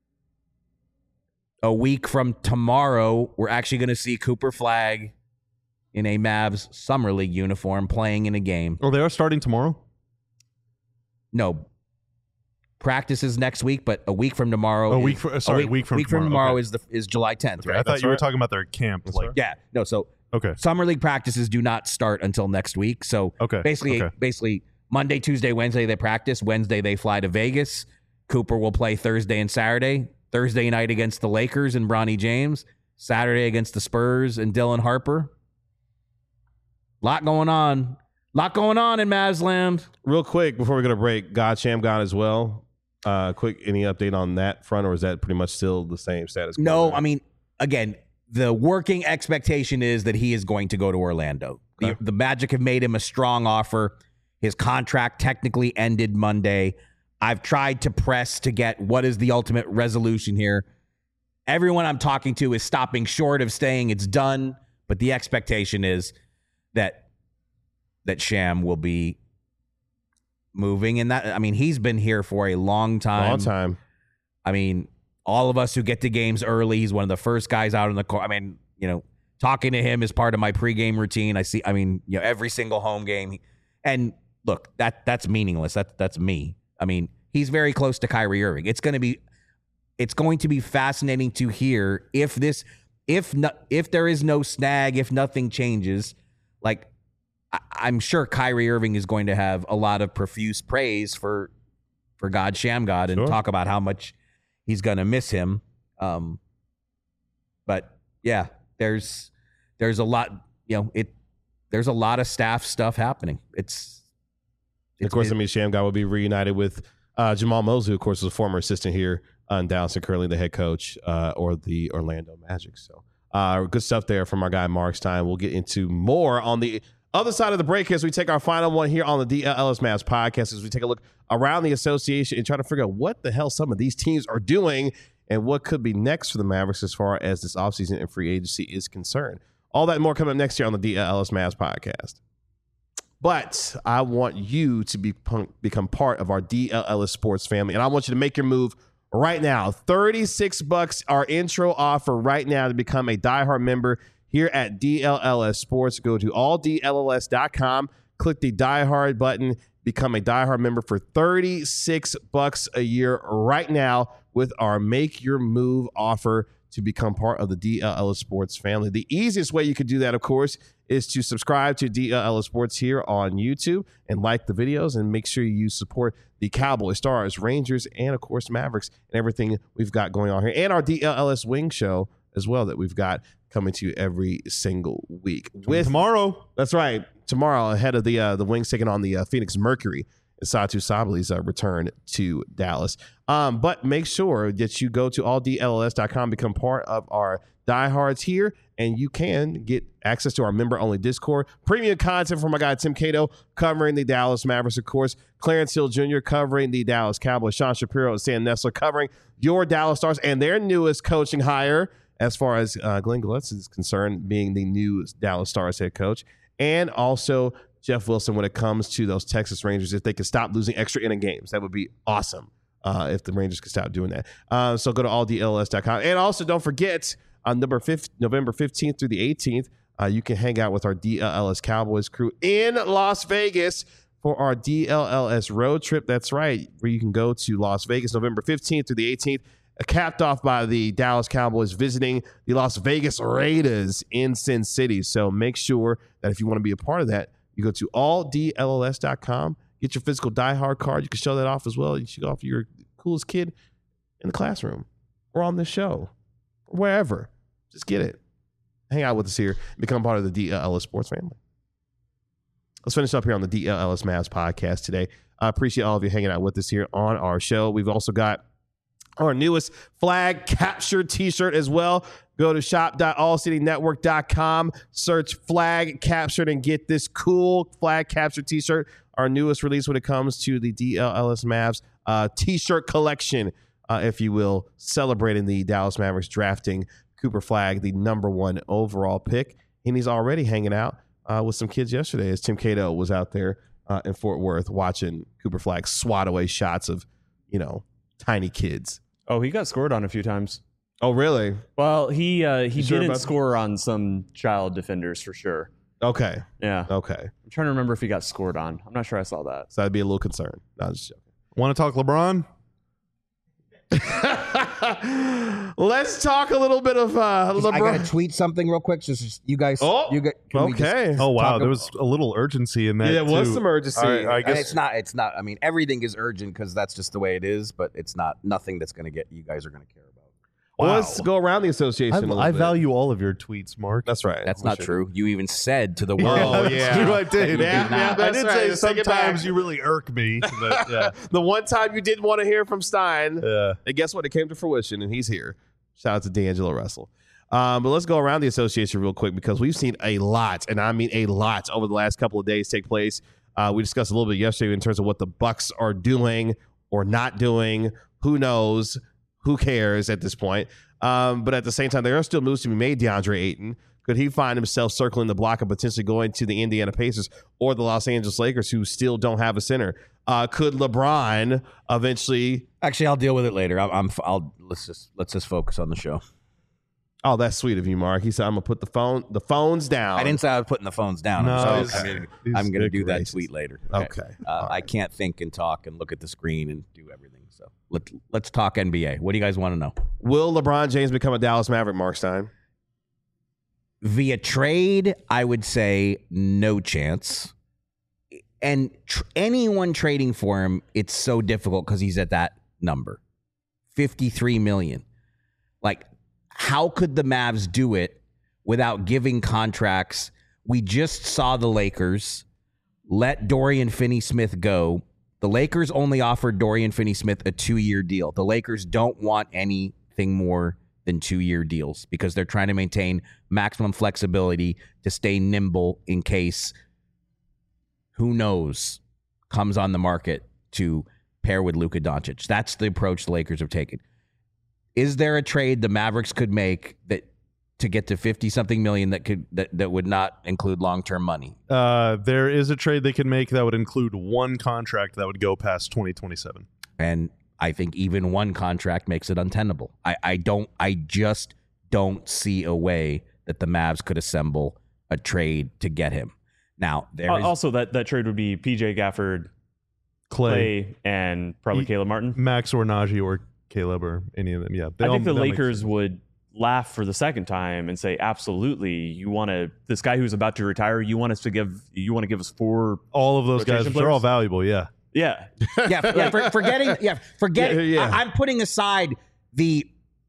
A week from tomorrow, we're actually going to see Cooper Flag in a Mavs Summer League uniform playing in a game. Oh, they are starting tomorrow? No, practices next week, but a week from tomorrow. A is- week for- sorry, week, week from week from tomorrow. tomorrow Okay. is the is July tenth, I right? thought That's you were right. talking about their camp. Like, Yeah, no. So okay. Summer League practices do not start until next week. So Okay, basically, okay. basically Monday, Tuesday, Wednesday they practice. Wednesday they fly to Vegas. Cooper will play Thursday and Saturday. Thursday night against the Lakers and Bronny James. Saturday against the Spurs and Dylan Harper. Lot going on. Lot going on in Mavs land. Real quick before we go to break, God Sham gone as well. Uh, quick, any update on that front, or is that pretty much still the same status quo? No, there? I mean, again, the working expectation is that he is going to go to Orlando. The, Okay. the Magic have made him a strong offer. His contract technically ended Monday. I've tried to press to get what is the ultimate resolution here. Everyone I'm talking to is stopping short of saying it's done, but the expectation is that that Sham will be moving. And that, I mean, he's been here for a long time. Long time. I mean, all of us who get to games early, he's one of the first guys out on the court. I mean, you know, talking to him is part of my pregame routine. I see, I mean, you know, every single home game. And look, that that's meaningless. That, that's me. I mean, he's very close to Kyrie Irving. It's going to be, it's going to be fascinating to hear if this, if no, if there is no snag, if nothing changes, like I, I'm sure Kyrie Irving is going to have a lot of profuse praise for, for God Sham God and Sure. talk about how much he's going to miss him. Um, but yeah, there's, there's a lot, you know, it, there's a lot of staff stuff happening. It's, Of course, I mean, Sham God will be reunited with uh, Jamal Mosley, who, of course, was a former assistant here in Dallas and currently the head coach uh, or the Orlando Magic. So uh, good stuff there from our guy Mark Stein. We'll get into more on the other side of the break as we take our final one here on the D L L S Mavs podcast as we take a look around the association and try to figure out what the hell some of these teams are doing and what could be next for the Mavericks as far as this offseason and free agency is concerned. All that and more coming up next year on the D L L S Mavs podcast. But I want you to be, become part of our D L L S Sports family, and I want you to make your move right now. thirty-six bucks, our intro offer right now to become a diehard member here at D L L S Sports. Go to all D L L S dot com, click the diehard button, become a diehard member for thirty-six bucks a year right now with our Make Your Move offer to become part of the D L L S Sports family. The easiest way you could do that, of course, is to subscribe to D L L S Sports here on YouTube and like the videos and make sure you support the Cowboys, Stars, Rangers, and, of course, Mavericks and everything we've got going on here. And our D L L S Wing Show as well that we've got coming to you every single week. With Tomorrow. That's right. Tomorrow, ahead of the uh, the Wings taking on the uh, Phoenix Mercury, Satu Sabli's uh, return to Dallas. Um, but make sure that you go to all D L L S dot com, become part of our diehards here, and you can get access to our member-only Discord, premium content from my guy Tim Cato covering the Dallas Mavericks, of course, Clarence Hill Junior covering the Dallas Cowboys, Sean Shapiro and Sam Nessler covering your Dallas Stars and their newest coaching hire as far as uh, Glenn Gulletz is concerned, being the new Dallas Stars head coach, and also Jeff Wilson when it comes to those Texas Rangers. If they could stop losing extra inning games, that would be awesome uh, if the Rangers could stop doing that. Uh, so go to all D L L S dot com. And also don't forget, on November fifteenth through the eighteenth, uh, you can hang out with our D L L S Cowboys crew in Las Vegas for our D L L S road trip. That's right, where you can go to Las Vegas November fifteenth through the eighteenth, capped off by the Dallas Cowboys visiting the Las Vegas Raiders in Sin City. So make sure that if you want to be a part of that, you go to all D L L S dot com, get your physical diehard card. You can show that off as well. You should go off your coolest kid in the classroom or on this show or wherever. Just get it. Hang out with us here. Become part of the D L L S Sports family. Let's finish up here on the D L L S Mavs podcast today. I appreciate all of you hanging out with us here on our show. We've also got our newest flag capture t-shirt as well. Go to shop dot all city network dot com, search flag captured, and get this cool flag capture t-shirt. Our newest release when it comes to the D L L S Mavs uh, t-shirt collection, uh, if you will, celebrating the Dallas Mavericks drafting Cooper Flagg, the number one overall pick. And he's already hanging out uh, with some kids yesterday as Tim Cato was out there uh, in Fort Worth watching Cooper Flagg swat away shots of, you know, tiny kids. Oh, he got scored on a few times. Oh, really? Well, he uh, he You sure didn't about- score on some child defenders for sure. Okay. Yeah. Okay. I'm trying to remember if he got scored on. I'm not sure I saw that. So I'd be a little concerned. No, I'm just joking. Want to talk LeBron? Let's talk a little bit of uh, Just- I gotta LeBron. tweet something real quick. Just, just you guys. Oh, you get, can we just- okay. Oh, wow. talk There ab- was a little urgency in that, Yeah, there was too. some urgency. All right, I and guess it's not. It's not. I mean, everything is urgent because that's just the way it is. But it's not nothing that's going to get you guys are going to care about. Well, Wow. let's go around the association. I, a little I bit. value all of your tweets, Mark. That's right. That's We not should. true. You even said to the world. Oh, That's yeah. true, I did. Yeah, yeah, I that's did right. say Let's take it sometimes back. you really irk me. But yeah. The one time you didn't want to hear from Stein, yeah. and guess what? It came to fruition, and he's here. Shout out to D'Angelo Russell. Um, but let's go around the association real quick because we've seen a lot, and I mean a lot, over the last couple of days take place. Uh, we discussed a little bit yesterday in terms of what the Bucks are doing or not doing. Who knows? Who cares at this point? Um, but at the same time, there are still moves to be made. DeAndre Ayton, could he find himself circling the block and potentially going to the Indiana Pacers or the Los Angeles Lakers, who still don't have a center? Uh, could LeBron eventually? Actually, I'll deal with it later. I'm, I'm I'll let's just let's just focus on the show. Oh, that's sweet of you, Mark. He said, "I'm gonna put the phone the phones down." I didn't say I was putting the phones down. No, I'm, he's- sorry. I mean, he's I'm going to do that racist. tweet later. Okay. Uh, All I right. can't think and talk and look at the screen and do everything. So let let's talk N B A. What do you guys want to know? Will LeBron James become a Dallas Maverick, Mark Stein? Via trade, I would say no chance. And tr- anyone trading for him, it's so difficult because he's at that number, fifty-three million. Like, how could the Mavs do it without giving contracts? We just saw the Lakers let Dorian Finney-Smith go. The Lakers only offered Dorian Finney-Smith a two-year deal. The Lakers don't want anything more than two-year deals because they're trying to maintain maximum flexibility to stay nimble in case, who knows, comes on the market to pair with Luka Doncic. That's the approach the Lakers have taken. Is there a trade the Mavericks could make that to get to fifty-something million that could that, that would not include long-term money? Uh, there is a trade they could make that would include one contract that would go past twenty twenty-seven. And I think even one contract makes it untenable. I, I don't. I just don't see a way that the Mavs could assemble a trade to get him. Now there Uh, is also, that, that trade would be P J Gafford, Clay, Clay, and probably He- Caleb Martin. Max or Najee or Caleb or any of them. Yeah, they I all- think the that makes Lakers sense. would laugh for the second time and say, absolutely, you want to, this guy who's about to retire, you want us to give, you want to give us four. all of those guys, rotation which are all players? valuable. Yeah, Yeah. yeah, yeah for, forgetting, yeah, forgetting. Yeah, yeah. I, I'm putting aside the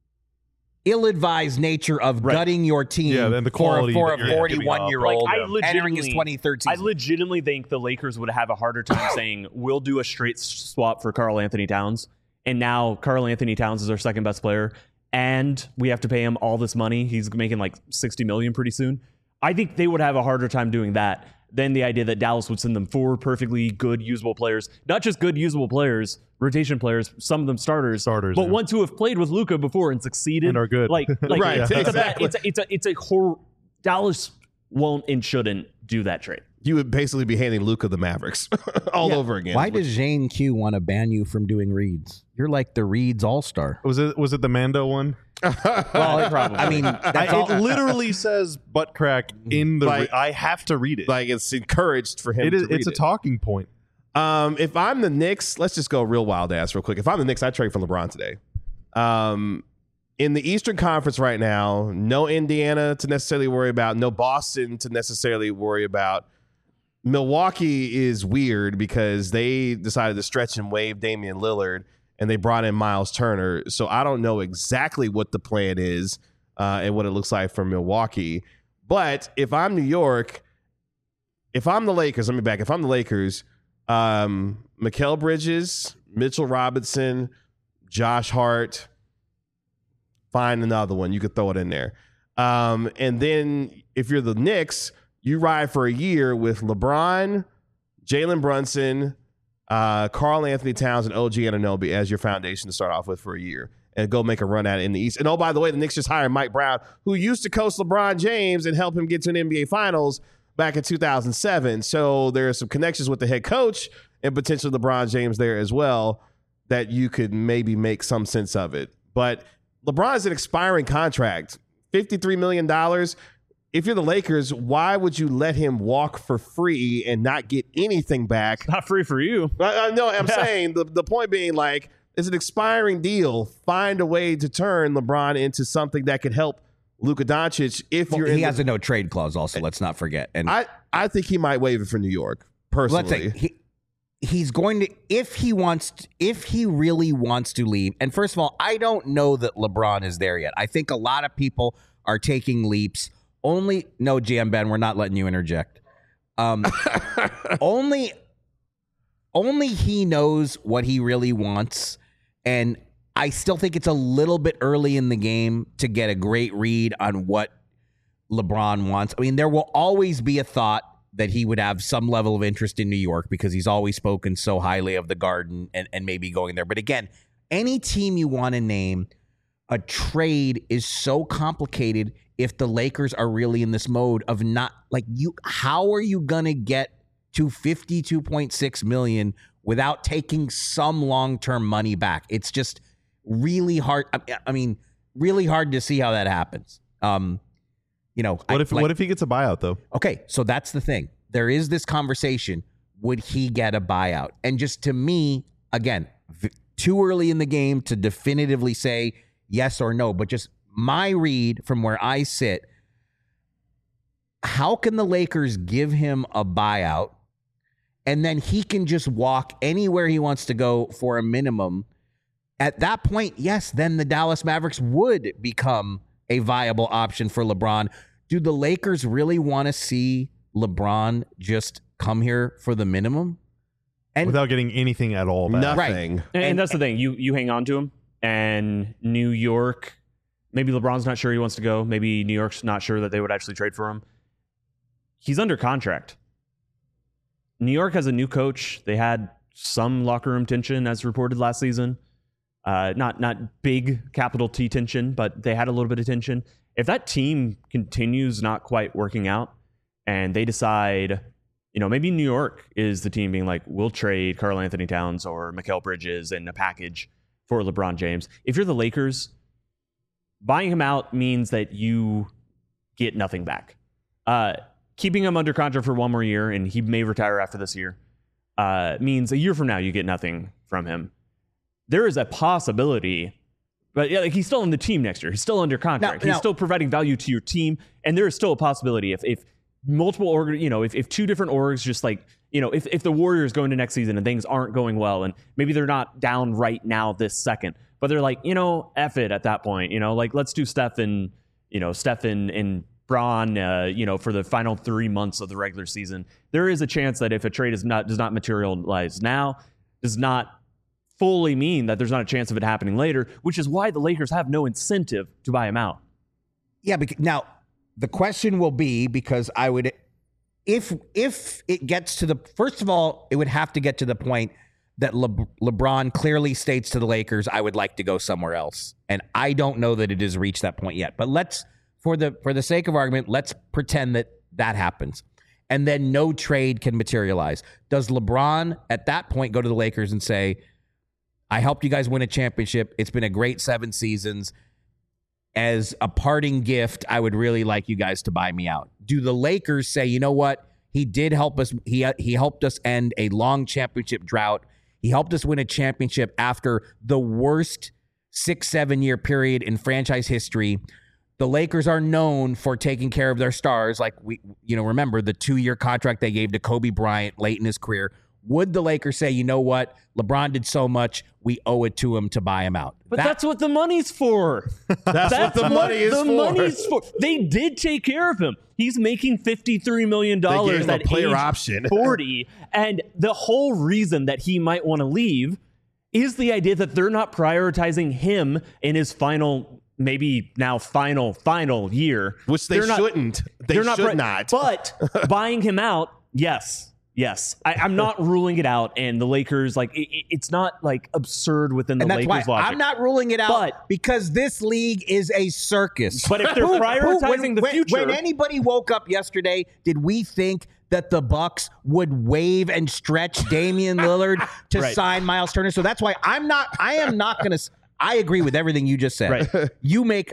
ill-advised nature of Right. gutting your team Yeah, and the for, quality for that a you're forty-one-year-old Like, I entering his legitimately- twenty-third I season. legitimately think the Lakers would have a harder time saying, we'll do a straight swap for Karl Anthony Towns. And now Karl Anthony Towns is our second best player. And we have to pay him all this money. He's making like sixty million pretty soon. I think they would have a harder time doing that than the idea that Dallas would send them four perfectly good, usable players. Not just good, usable players, rotation players, some of them starters, Starters, but yeah. ones who have played with Luka before and succeeded. And are good. Like, like Right, it's, a bad, exactly. it's, a, it's, a, it's a hor- Dallas won't and shouldn't do that trade. You would basically be handing Luka the Mavericks all over again. Why does Zane Q want to ban you from doing reads? You're like the reads all-star. was it was it the Mando one? Well, Probably. I mean, that's I, all. it literally says butt crack in the. Like- re- I have to read it. like it's encouraged for him it is. to read It's a it. talking point. Um, if I'm the Knicks, let's just go real wild ass real quick. If I'm the Knicks, I trade for LeBron today. Um, in the Eastern Conference right now, no Indiana to necessarily worry about, no Boston to necessarily worry about. Milwaukee is weird because they decided to stretch and waive Damian Lillard, and they brought in Miles Turner. So I don't know exactly what the plan is uh, and what it looks like for Milwaukee. But if I'm New York, if I'm the Lakers, let me back. If I'm the Lakers, um, Mikal Bridges, Mitchell Robinson, Josh Hart, find another one. You could throw it in there. Um, and then if you're the Knicks, you ride for a year with LeBron, Jalen Brunson, uh, Karl Anthony Towns, and O G Anunoby as your foundation to start off with for a year and go make a run at it in the East. And oh, by the way, the Knicks just hired Mike Brown, who used to coach LeBron James and help him get to an N B A Finals back in two thousand seven. So there are some connections with the head coach and potentially LeBron James there as well that you could maybe make some sense of it. But LeBron's an expiring contract, fifty-three million dollars. If you're the Lakers, why would you let him walk for free and not get anything back? Not free for you. I, I know. I'm saying the, the point being, like, it's an expiring deal. Find a way to turn LeBron into something that could help Luka Doncic. If Well, you're he in has the, a no trade clause. Also, let's not forget. And I I think he might waive it for New York personally. let's say he, he's going to if he wants to, if he really wants to leave. And first of all, I don't know that LeBron is there yet. I think a lot of people are taking leaps. Only no, G M Ben, we're not letting you interject. Um, only, only he knows what he really wants, and I still think it's a little bit early in the game to get a great read on what LeBron wants. I mean, there will always be a thought that he would have some level of interest in New York because he's always spoken so highly of the Garden and, and maybe going there. But again, any team you want to name, a trade is so complicated if the Lakers are really in this mode of not like you. How are you going to get to fifty-two point six million dollars without taking some long-term money back? It's just really hard. I mean, really hard to see how that happens. Um, you know, What I, if like, what if he gets a buyout though? Okay, so that's the thing. There is this conversation. Would he get a buyout? And just to me, again, v- too early in the game to definitively say yes or no. But just my read from where I sit, how can the Lakers give him a buyout and then he can just walk anywhere he wants to go for a minimum? At that point, yes, then the Dallas Mavericks would become a viable option for LeBron. Do the Lakers really want to see LeBron just come here for the minimum? And Without getting anything at all back. Nothing. And, and, And- that's the thing. You you hang on to him, and New York, maybe LeBron's not sure he wants to go. Maybe New York's not sure that they would actually trade for him. He's under contract. New York has a new coach. They had some locker room tension, as reported last season. Uh, not not big capital T tension, but they had a little bit of tension. If that team continues not quite working out, and they decide, you know, maybe New York is the team being like, we'll trade Karl Anthony Towns or Mikal Bridges in a package for LeBron James. If you're the Lakers, buying him out means that you get nothing back. Uh, keeping him under contract for one more year, and he may retire after this year, uh, means a year from now you get nothing from him. There is a possibility, but yeah, like he's still on the team next year. He's still under contract. Now- he's now- still providing value to your team, and there is still a possibility if if multiple org, you know, if, if two different orgs just like, you know, if, if the Warriors go into next season and things aren't going well, and maybe they're not down right now this second, but they're like, you know, F it at that point, you know, like let's do Steph and, you know, Steph and, and Bron, uh, you know, for the final three months of the regular season. There is a chance that if a trade is not does not materialize now, does not fully mean that there's not a chance of it happening later, which is why the Lakers have no incentive to buy him out. Yeah, because now the question will be, because I would, if if it gets to the, first of all, it would have to get to the point that Le, LeBron clearly states to the Lakers, I would like to go somewhere else. And I don't know that it has reached that point yet. But let's, for the for the sake of argument, let's pretend that that happens. And then no trade can materialize. Does LeBron at that point go to the Lakers and say, I helped you guys win a championship. It's been a great seven seasons. As a parting gift, I would really like you guys to buy me out. Do the Lakers say, you know what? He did help us. He, he helped us end a long championship drought. He helped us win a championship after the worst six, seven year period in franchise history. The Lakers are known for taking care of their stars. Like we, you know, remember the two year contract they gave to Kobe Bryant late in his career. Would the Lakers say, you know what? LeBron did so much, we owe it to him to buy him out? But That- that's what the money's for. That's, what the money is the for. money's for. They did take care of him. He's making fifty-three million They dollars gave him a at player age option. forty. And the whole reason that he might want to leave is the idea that they're not prioritizing him in his final, maybe now final, final year. Which they They're not- shouldn't. They they're should pri- not. But buying him out, yes. Yes, I, I'm not ruling it out, and the Lakers, like, it, it- it's not like absurd within the and that's Lakers why logic. I'm not ruling it out, But- because this league is a circus. But if they're prioritizing when, the when- future- when anybody woke up yesterday, did we think that the Bucks would wave and stretch Damian Lillard to Right. sign Miles Turner? So that's why I'm not. I am not going to. I agree with everything you just said. Right. You make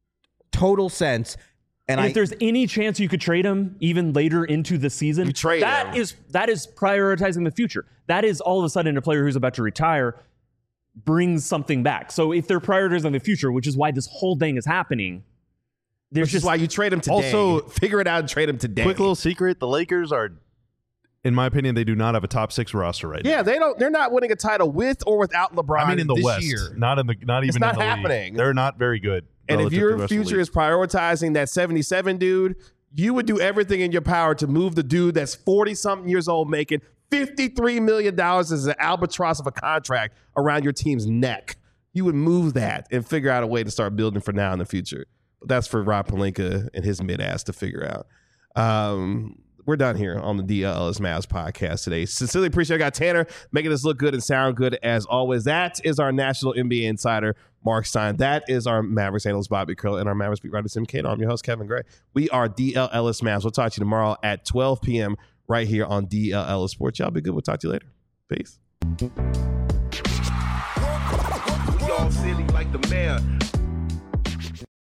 total sense. And, And I, if there's any chance you could trade him even later into the season, You trade that him. is that is prioritizing the future. That is all of a sudden a player who's about to retire brings something back. So if they're prioritizing the future, which is why this whole thing is happening, there's Which just is why you trade him today. Also- figure it out and trade him today. Quick little secret: the Lakers are, in my opinion, they do not have a top six roster right Yeah, they don't. They're not winning a title with or without LeBron. now. I mean, in the this West, year. not in the, not even not in the league. happening. They're not very good. And if relative to the your rest of the future league. is prioritizing that seventy-seven dude, you would do everything in your power to move the dude that's forty-something years old making fifty-three million dollars as an albatross of a contract around your team's neck. you would move that and figure out a way to start building for now in the future. But that's for Rob Pelinka and his mid-ass to figure out. Um, we're done here on the D L L S Mavs podcast today. Sincerely appreciate it. I got Tanner making us look good and sound good as always. That is our national N B A insider, Mark Stein. That is our Mavericks analyst, Bobby Curl, and our Mavericks beat writer, Tim Cato. I'm your host, Kevin Gray. We are D L L S Mavs. We'll talk to you tomorrow at twelve p.m. right here on D L L S Sports. Y'all be good. We'll talk to you later. Peace. We all silly like the mayor.